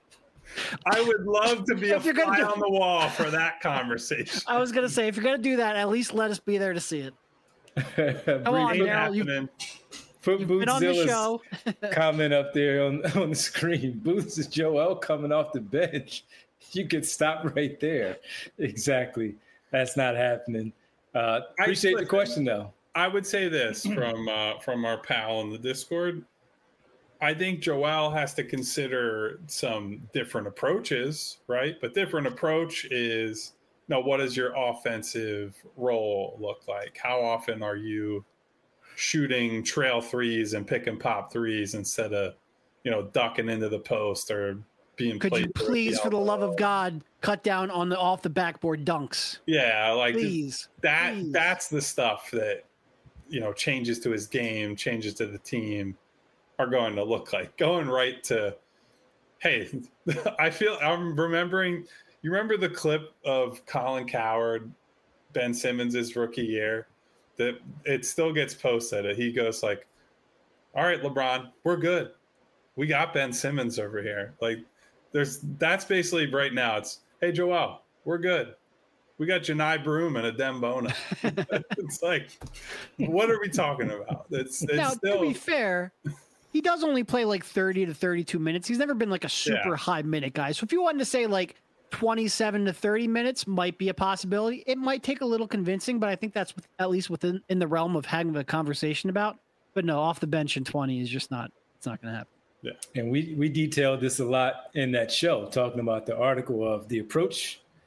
I would love to be a fly on the wall for that conversation. I was going to say, if you're going to do that, at least let us be there to see it. Come on, Daryl. Put Boothzilla's comment up there on the screen. Booths is Joel coming off the bench. You could stop right there. Exactly. That's not happening. Appreciate the question, though. I would say this from our pal in the Discord. I think Joel has to consider some different approaches, right? But different approach is, what does your offensive role look like? How often are you shooting trail threes and pick and pop threes instead of, ducking into the post or being Could you please, for the love of God, cut down on the off the backboard dunks? Yeah, please. That's the stuff that, changes to his game, changes to the team are going to look like. Going right to, hey, I'm remembering, you remember the clip of Colin Cowherd, Ben Simmons' rookie year? That it still gets posted. He goes like, all right, LeBron, we're good. We got Ben Simmons over here. That's basically right now. It's, hey, Joel, we're good. We got Janai Broom and Adem Bona. It's like, what are we talking about? It's now, still... to be fair, he does only play like 30 to 32 minutes. He's never been like a super high minute guy. So if you wanted to say like 27 to 30 minutes might be a possibility. It might take a little convincing, but I think that's at least in the realm of having a conversation about. But no, off the bench in 20 is just not, it's not going to happen. Yeah. And we detailed this a lot in that show, talking about the article of the approach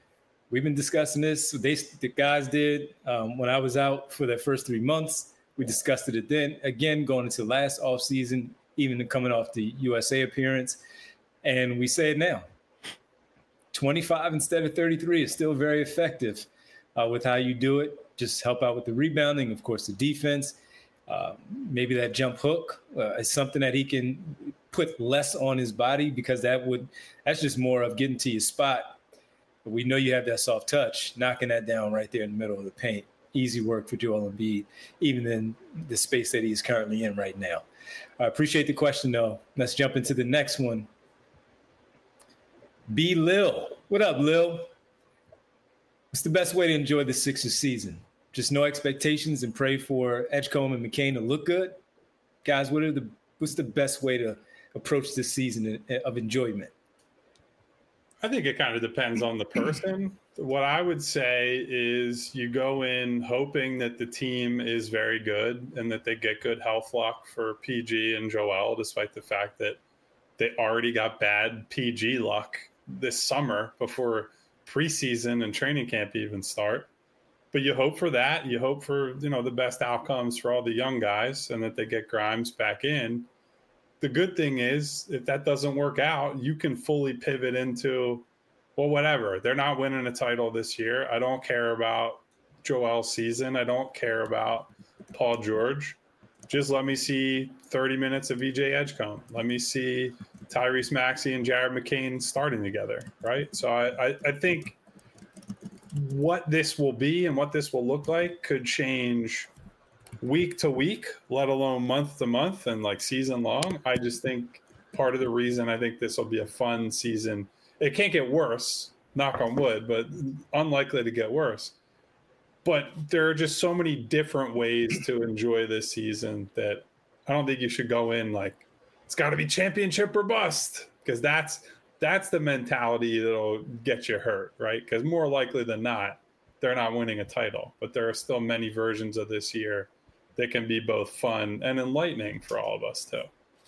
We've been discussing this. The guys did when I was out for the first 3 months. We discussed it then. Again, going into last offseason, even coming off the USA appearance. And we say it now. 25 instead of 33 is still very effective with how you do it. Just help out with the rebounding, of course, the defense. Maybe that jump hook is something that he can put less on his body, because that's just more of getting to your spot. But we know you have that soft touch, knocking that down right there in the middle of the paint. Easy work for Joel Embiid, even in the space that he's currently in right now. I appreciate the question, though. Let's jump into the next one. B. Lil. What up, Lil? What's the best way to enjoy the Sixers season? Just no expectations and pray for Edgecombe and McCain to look good? Guys, what's the best way to approach this season of enjoyment? I think it kind of depends on the person. What I would say is you go in hoping that the team is very good and that they get good health luck for PG and Joel, despite the fact that they already got bad PG luck this summer before preseason and training camp even start. But you hope for that. You hope for, the best outcomes for all the young guys and that they get Grimes back in. The good thing is, if that doesn't work out, you can fully pivot into, well, whatever. They're not winning a title this year. I don't care about Joel's season. I don't care about Paul George. Just let me see 30 minutes of VJ Edgecombe. Let me see Tyrese Maxey and Jared McCain starting together, right? So I think what this will be and what this will look like could change week to week, let alone month to month and like season long. I just think part of the reason I think this will be a fun season, it can't get worse, knock on wood, but unlikely to get worse. But there are just so many different ways to enjoy this season that I don't think you should go in like it's got to be championship or bust, because that's the mentality that'll get you hurt, right? Because more likely than not, they're not winning a title. But there are still many versions of this year that can be both fun and enlightening for all of us too.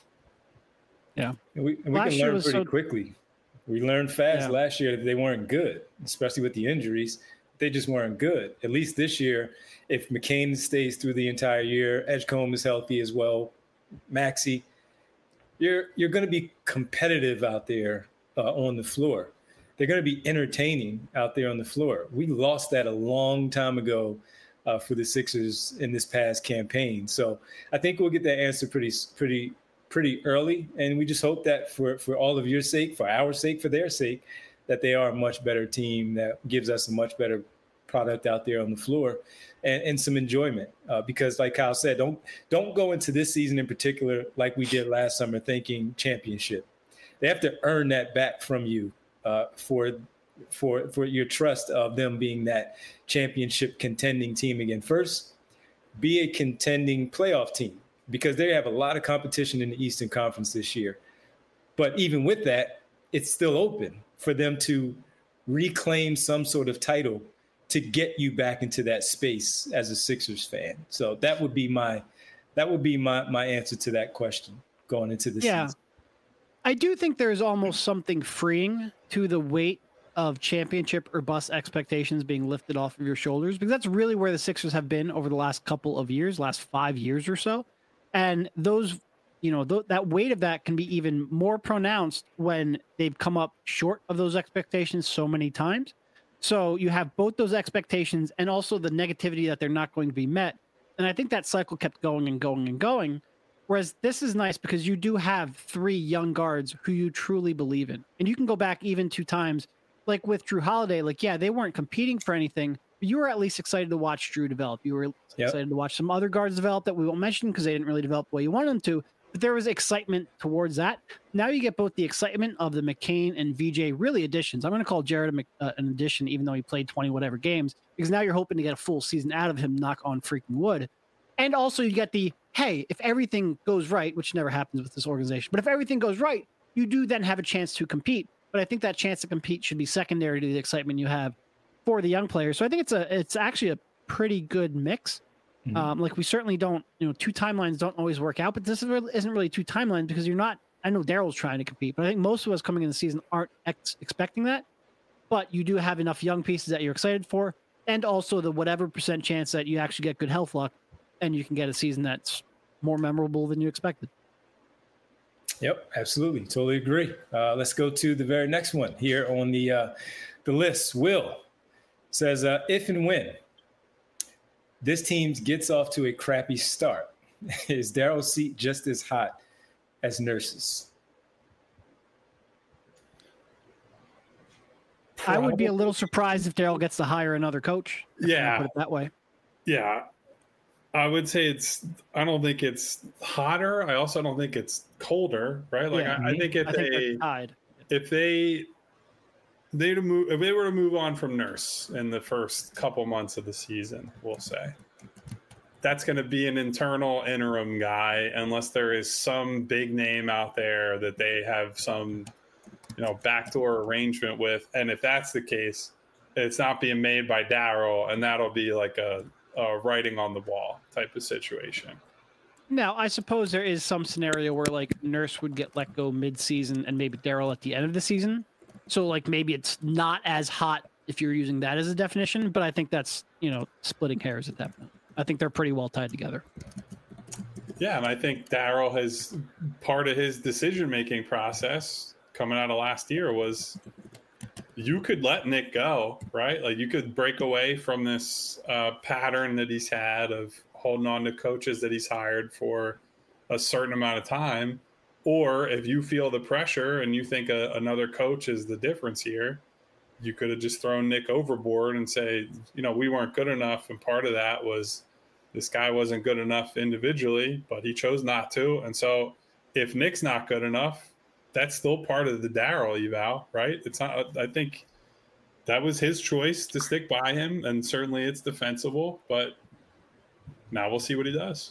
Yeah, and we can learn pretty quickly. We learned fast last year that they weren't good, especially with the injuries. They just weren't good. At least this year, if McCain stays through the entire year, Edgecombe is healthy as well, Maxey, you're going to be competitive out there on the floor. They're going to be entertaining out there on the floor. We lost that a long time ago for the Sixers in this past campaign. So I think we'll get that answer pretty early. And we just hope that for all of your sake, for our sake, for their sake, that they are a much better team that gives us a much better product out there on the floor and some enjoyment. Because like Kyle said, don't go into this season in particular like we did last summer thinking championship. They have to earn that back from you for your trust of them being that championship contending team again. First, be a contending playoff team, because they have a lot of competition in the Eastern Conference this year. But even with that, it's still open for them to reclaim some sort of title to get you back into that space as a Sixers fan. So that would be my answer to that question going into the season. I do think there's almost something freeing to the weight of championship or bust expectations being lifted off of your shoulders, because that's really where the Sixers have been over the last couple of years, last 5 years or so. And those, that weight of that can be even more pronounced when they've come up short of those expectations so many times. So you have both those expectations and also the negativity that they're not going to be met. And I think that cycle kept going and going and going. Whereas this is nice because you do have 3 young guards who you truly believe in. And you can go back even 2 times, like with Drew Holiday, they weren't competing for anything, but you were at least excited to watch Drew develop. You were excited to watch some other guards develop that we won't mention because they didn't really develop the way you wanted them to. But there was excitement towards that. Now you get both the excitement of the McCain and VJ really additions. I'm going to call Jared an addition, even though he played 20 whatever games, because now you're hoping to get a full season out of him, knock on freaking wood. And also you get the, hey, if everything goes right, which never happens with this organization, but if everything goes right, you do then have a chance to compete. But I think that chance to compete should be secondary to the excitement you have for the young players. So I think it's actually a pretty good mix. Mm-hmm. We certainly don't, 2 timelines don't always work out, but this isn't really 2 timelines because you're not, I know Daryl's trying to compete, but I think most of us coming in the season aren't expecting that. but you do have enough young pieces that you're excited for, and also the whatever % chance that you actually get good health luck, and you can get a season that's more memorable than you expected. Yep, absolutely. Totally agree. Let's go to the very next one here on the list. Will says, if and when this team gets off to a crappy start, is Daryl's seat just as hot as Nurse's? I would be a little surprised if Daryl gets to hire another coach. Yeah. Put it that way. Yeah. I would say I don't think it's hotter. I also don't think it's colder, right? Like, Yeah, I think if they were to move on from Nurse in the first couple months of the season, we'll say, that's going to be an internal interim guy, unless there is some big name out there that they have some, backdoor arrangement with. And if that's the case, it's not being made by Daryl, and that'll be like a writing on the wall type of situation. Now, I suppose there is some scenario where like Nurse would get let go mid-season and maybe Daryl at the end of the season. So like maybe it's not as hot if you're using that as a definition, but I think that's, splitting hairs at that point. I think they're pretty well tied together. Yeah, and I think Daryl has part of his decision-making process coming out of last year was you could let Nick go, right? Like you could break away from this pattern that he's had of holding on to coaches that he's hired for a certain amount of time. Or if you feel the pressure and you think another coach is the difference here, you could have just thrown Nick overboard and say, we weren't good enough. And part of that was this guy wasn't good enough individually, but he chose not to. And so if Nick's not good enough, that's still part of the Daryl eval, right? It's not, I think that was his choice to stick by him, and certainly it's defensible, but now we'll see what he does.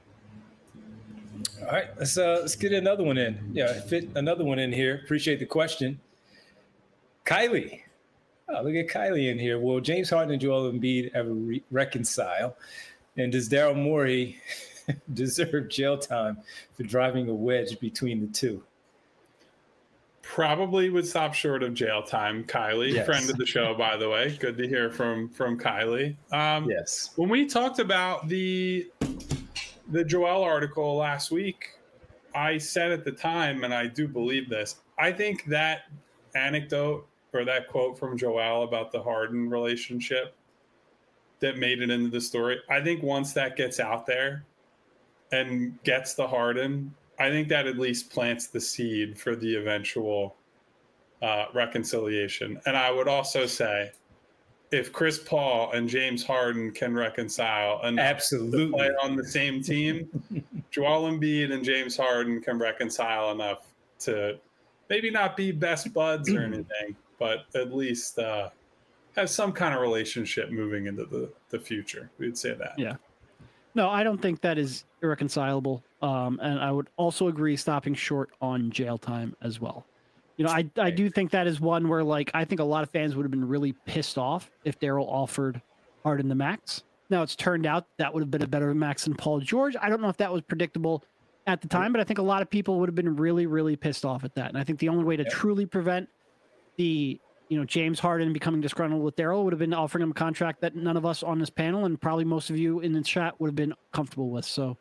All right, let's get another one in. Yeah, fit another one in here. Appreciate the question. Kylie. Oh, look at Kylie in here. Will James Harden and Joel Embiid ever reconcile? And does Daryl Morey deserve jail time for driving a wedge between the two? Probably would stop short of jail time. Kylie, yes. Friend of the show, by the way. Good to hear from Kylie. Yes. When we talked about the Joel article last week, I said at the time, and I do believe this, I think that anecdote or that quote from Joel about the Harden relationship that made it into the story, I think once that gets out there and gets the Harden, I think that at least plants the seed for the eventual reconciliation. And I would also say, if Chris Paul and James Harden can reconcile enough to play on the same team, Joel Embiid and James Harden can reconcile enough to maybe not be best buds or anything, but at least have some kind of relationship moving into the future. We'd say that. Yeah. No, I don't think that is irreconcilable. And I would also agree stopping short on jail time as well. I do think that is one where, like, I think a lot of fans would have been really pissed off if Daryl offered Harden the max. Now, it's turned out that would have been a better max than Paul George. I don't know if that was predictable at the time, but I think a lot of people would have been really, really pissed off at that. And I think the only way to truly prevent the, James Harden becoming disgruntled with Daryl would have been offering him a contract that none of us on this panel and probably most of you in the chat would have been comfortable with. So,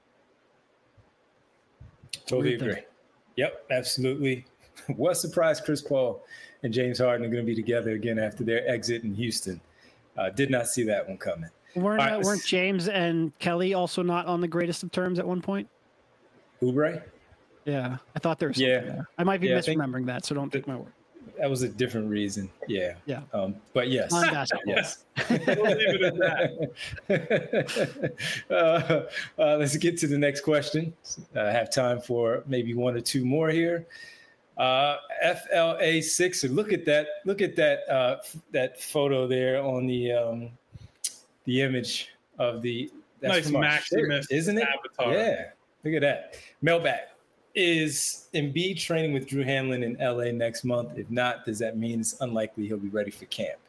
totally agree. Yep, absolutely. What surprised Chris Paul and James Harden are going to be together again after their exit in Houston. Did not see that one coming. Weren't James and Kelly also not on the greatest of terms at one point? Oubre? Yeah, I thought there was something there. I might be misremembering that, so don't take my word. That was a different reason. Yeah. Yeah. But yes. On basketball. Yes. We'll leave it at that. Let's get to the next question. I have time for maybe one or two more here. FLA Sixer. Look at that. Look at that photo there on the image of the nice Maximus, isn't it? Avatar. Yeah. Look at that. Mailbag. Is Embiid training with Drew Hanlon in LA next month? If not, does that mean it's unlikely he'll be ready for camp?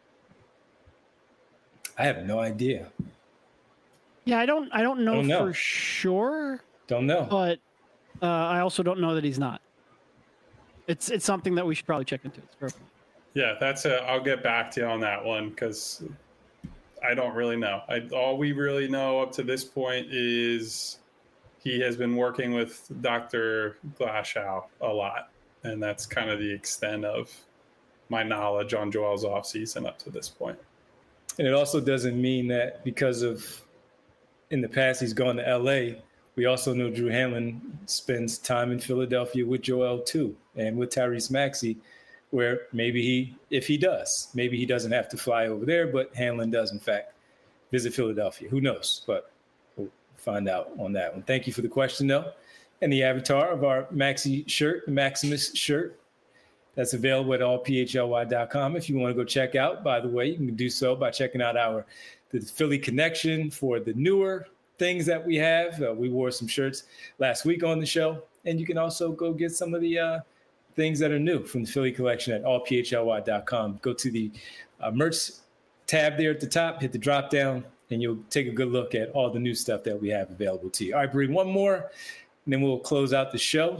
I have no idea. Yeah, I don't know for sure. Don't know. But I also don't know that he's not. It's something that we should probably check into. It's perfect. Yeah, I'll get back to you on that one because I don't really know. All we really know up to this point is he has been working with Dr. Glashow a lot, and that's kind of the extent of my knowledge on Joel's offseason up to this point. And it also doesn't mean that because of in the past he's gone to LA. We also know Drew Hanlen spends time in Philadelphia with Joel too, and with Tyrese Maxey, where maybe if he does, maybe he doesn't have to fly over there, but Hanlen does in fact visit Philadelphia. Who knows? But we'll find out on that one. Thank you for the question though. And the avatar of our Maxey shirt, the Maximus shirt, that's available at allphly.com. If you want to go check out, by the way, you can do so by checking out the Philly Connection for the newer things that we have. We wore some shirts last week on the show, and you can also go get some of the things that are new from the Philly collection at allphly.com. Go to the merch tab there at the top, hit the drop down, and you'll take a good look at all the new stuff that we have available to you. All right, Bree, one more, and then we'll close out the show.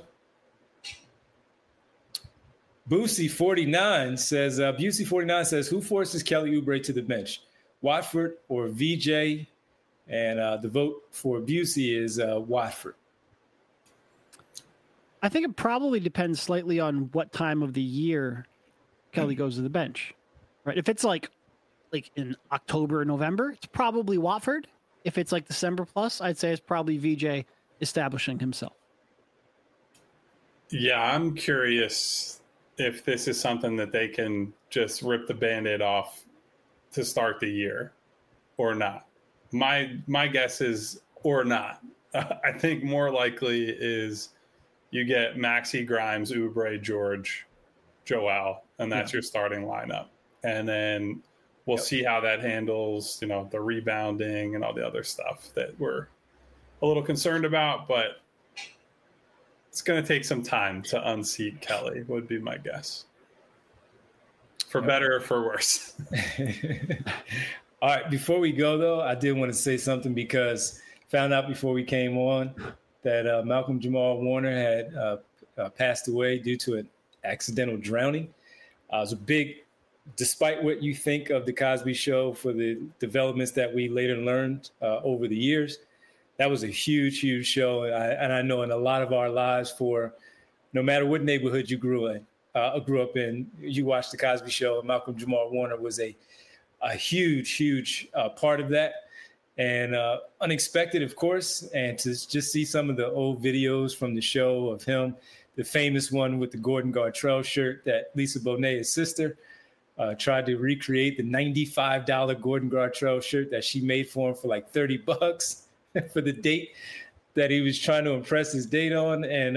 Busey49 says, who forces Kelly Oubre to the bench, Watford or VJ? And the vote for Busey is Watford. I think it probably depends slightly on what time of the year Kelly goes to the bench, right? If it's like in October or November, it's probably Watford. If it's like December plus, I'd say it's probably VJ establishing himself. Yeah, I'm curious if this is something that they can just rip the Band-Aid off to start the year or not. My guess is or not. I think more likely is you get Maxey, Grimes, Oubre, George, Joel, and that's your starting lineup. And then we'll see how that handles, the rebounding and all the other stuff that we're a little concerned about, but it's going to take some time to unseat Kelly, would be my guess. For better or for worse. All right, before we go, though, I did want to say something because found out before we came on that Malcolm Jamal Warner had passed away due to an accidental drowning. It was a big, despite what you think of The Cosby Show for the developments that we later learned over the years, that was a huge, huge show. And I know in a lot of our lives, for no matter what neighborhood you grew up in, you watched The Cosby Show, and Malcolm Jamal Warner was a huge, huge part of that. And unexpected, of course, and to just see some of the old videos from the show of him, the famous one with the Gordon Gartrell shirt that Lisa Bonet, his sister, tried to recreate, the $95 Gordon Gartrell shirt that she made for him for like $30 for the date that he was trying to impress his date on. And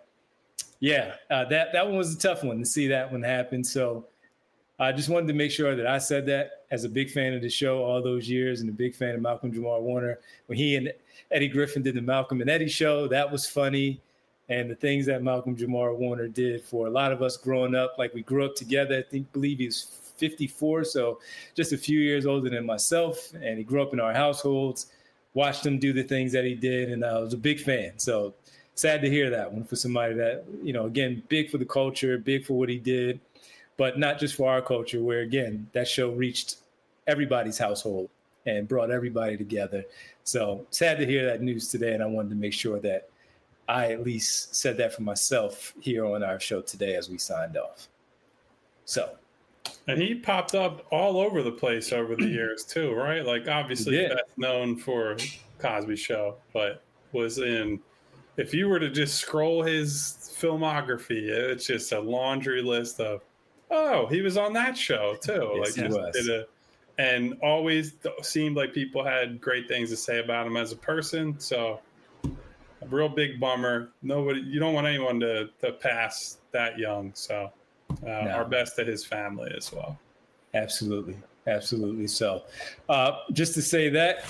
that one was a tough one to see that one happen. So I just wanted to make sure that I said that as a big fan of the show all those years and a big fan of Malcolm Jamal Warner. When he and Eddie Griffin did the Malcolm and Eddie show, that was funny. And the things that Malcolm Jamal Warner did for a lot of us growing up, like we grew up together, believe he was 54, so just a few years older than myself. And he grew up in our households, watched him do the things that he did, and I was a big fan. So sad to hear that one for somebody that, again, big for the culture, big for what he did, but not just for our culture, where, again, that show reached everybody's household and brought everybody together. So sad to hear that news today, and I wanted to make sure that I at least said that for myself here on our show today as we signed off. So. And he popped up all over the place over the years too, right? Like obviously best known for Cosby Show, but was in, if you were to just scroll his filmography, it's just a laundry list of, oh, he was on that show too. Yes, like just and always seemed like people had great things to say about him as a person. So a real big bummer. You don't want anyone to pass that young. So our best to his family as well. Absolutely. Absolutely. So just to say that.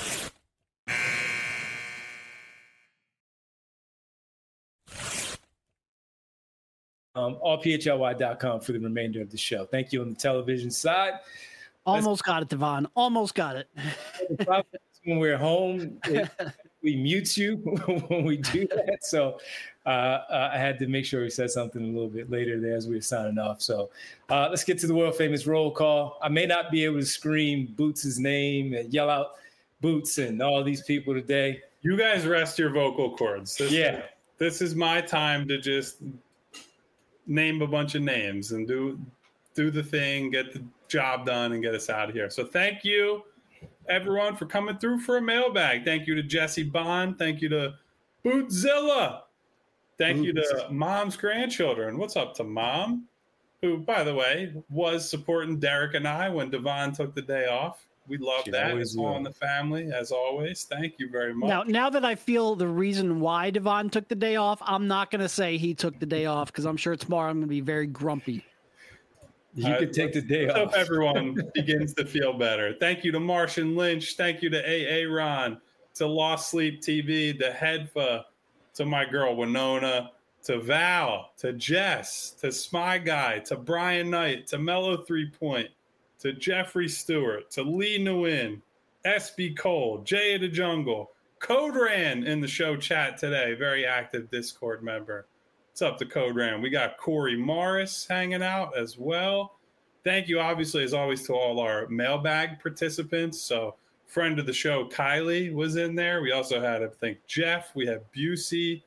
allphly.com for the remainder of the show. Thank you on the television side. Almost got it, Devon. Almost got it. When we're home, we mute you when we do that. So I had to make sure we said something a little bit later there as we were signing off. So let's get to the world famous roll call. I may not be able to scream Boots' name and yell out Boots and all these people today. You guys rest your vocal cords. This is my time to just name a bunch of names and do the thing, get the job done, and get us out of here. So thank you, everyone, for coming through for a mailbag. Thank you to Jesse Bond. Thank you to Bootzilla. Thank you to Mom's grandchildren. What's up to Mom, who, by the way, was supporting Derek and I when Devon took the day off. We love that. It's all in the family, as always. Thank you very much. Now that I feel the reason why Devon took the day off, I'm not going to say he took the day off because I'm sure tomorrow I'm going to be very grumpy. You could take the day off. I hope everyone begins to feel better. Thank you to Martian Lynch. Thank you to AA Ron, to Lost Sleep TV, to Hedfa, to my girl Winona, to Val, to Jess, to Spy Guy, to Brian Knight, to Mellow 3 Point, to Jeffrey Stewart, to Lee Nguyen, SB Cole, Jay of the Jungle, Code Ran in the show chat today, very active Discord member. What's up to Code Ran? We got Corey Morris hanging out as well. Thank you, obviously, as always, to all our mailbag participants. So, friend of the show, Kylie, was in there. We also had, I think, Jeff. We had Busey,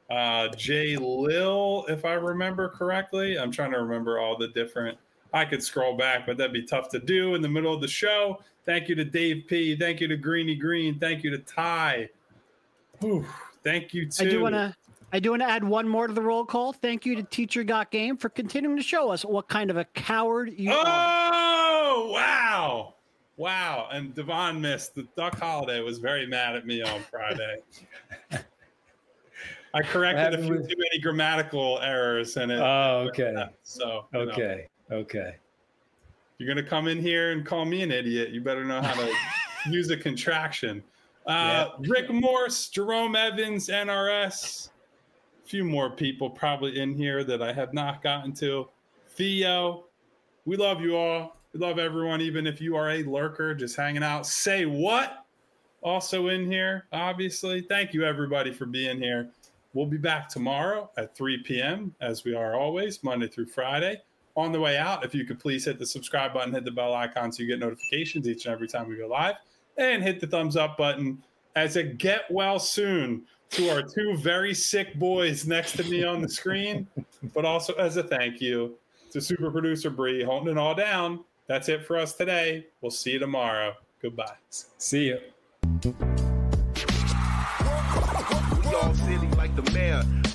Jay Lil, if I remember correctly. I'm trying to remember all the different. I could scroll back, but that'd be tough to do in the middle of the show. Thank you to Dave P. Thank you to Greeny Green. Thank you to Ty. Whew. Thank you to. I do want to add one more to the roll call. Thank you to Teacher Got Game for continuing to show us what kind of a coward you are. Oh, wow. Wow. And Devon missed. The Duck Holiday was very mad at me on Friday. I corrected a few too many grammatical errors in it. Oh, okay. So, okay. You're going to come in here and call me an idiot. You better know how to use a contraction. Rick Morse, Jerome Evans, NRS. A few more people probably in here that I have not gotten to. Theo, we love you all. We love everyone, even if you are a lurker just hanging out. Say what? Also in here, obviously. Thank you, everybody, for being here. We'll be back tomorrow at 3 p.m., as we are always, Monday through Friday. On the way out, if you could please hit the subscribe button, hit the bell icon so you get notifications each and every time we go live, and hit the thumbs up button as a get well soon to our two very sick boys next to me on the screen, but also as a thank you to super producer Bree holding it all down. That's it for us today. We'll see you tomorrow. Goodbye. See you. We all silly like the mayor.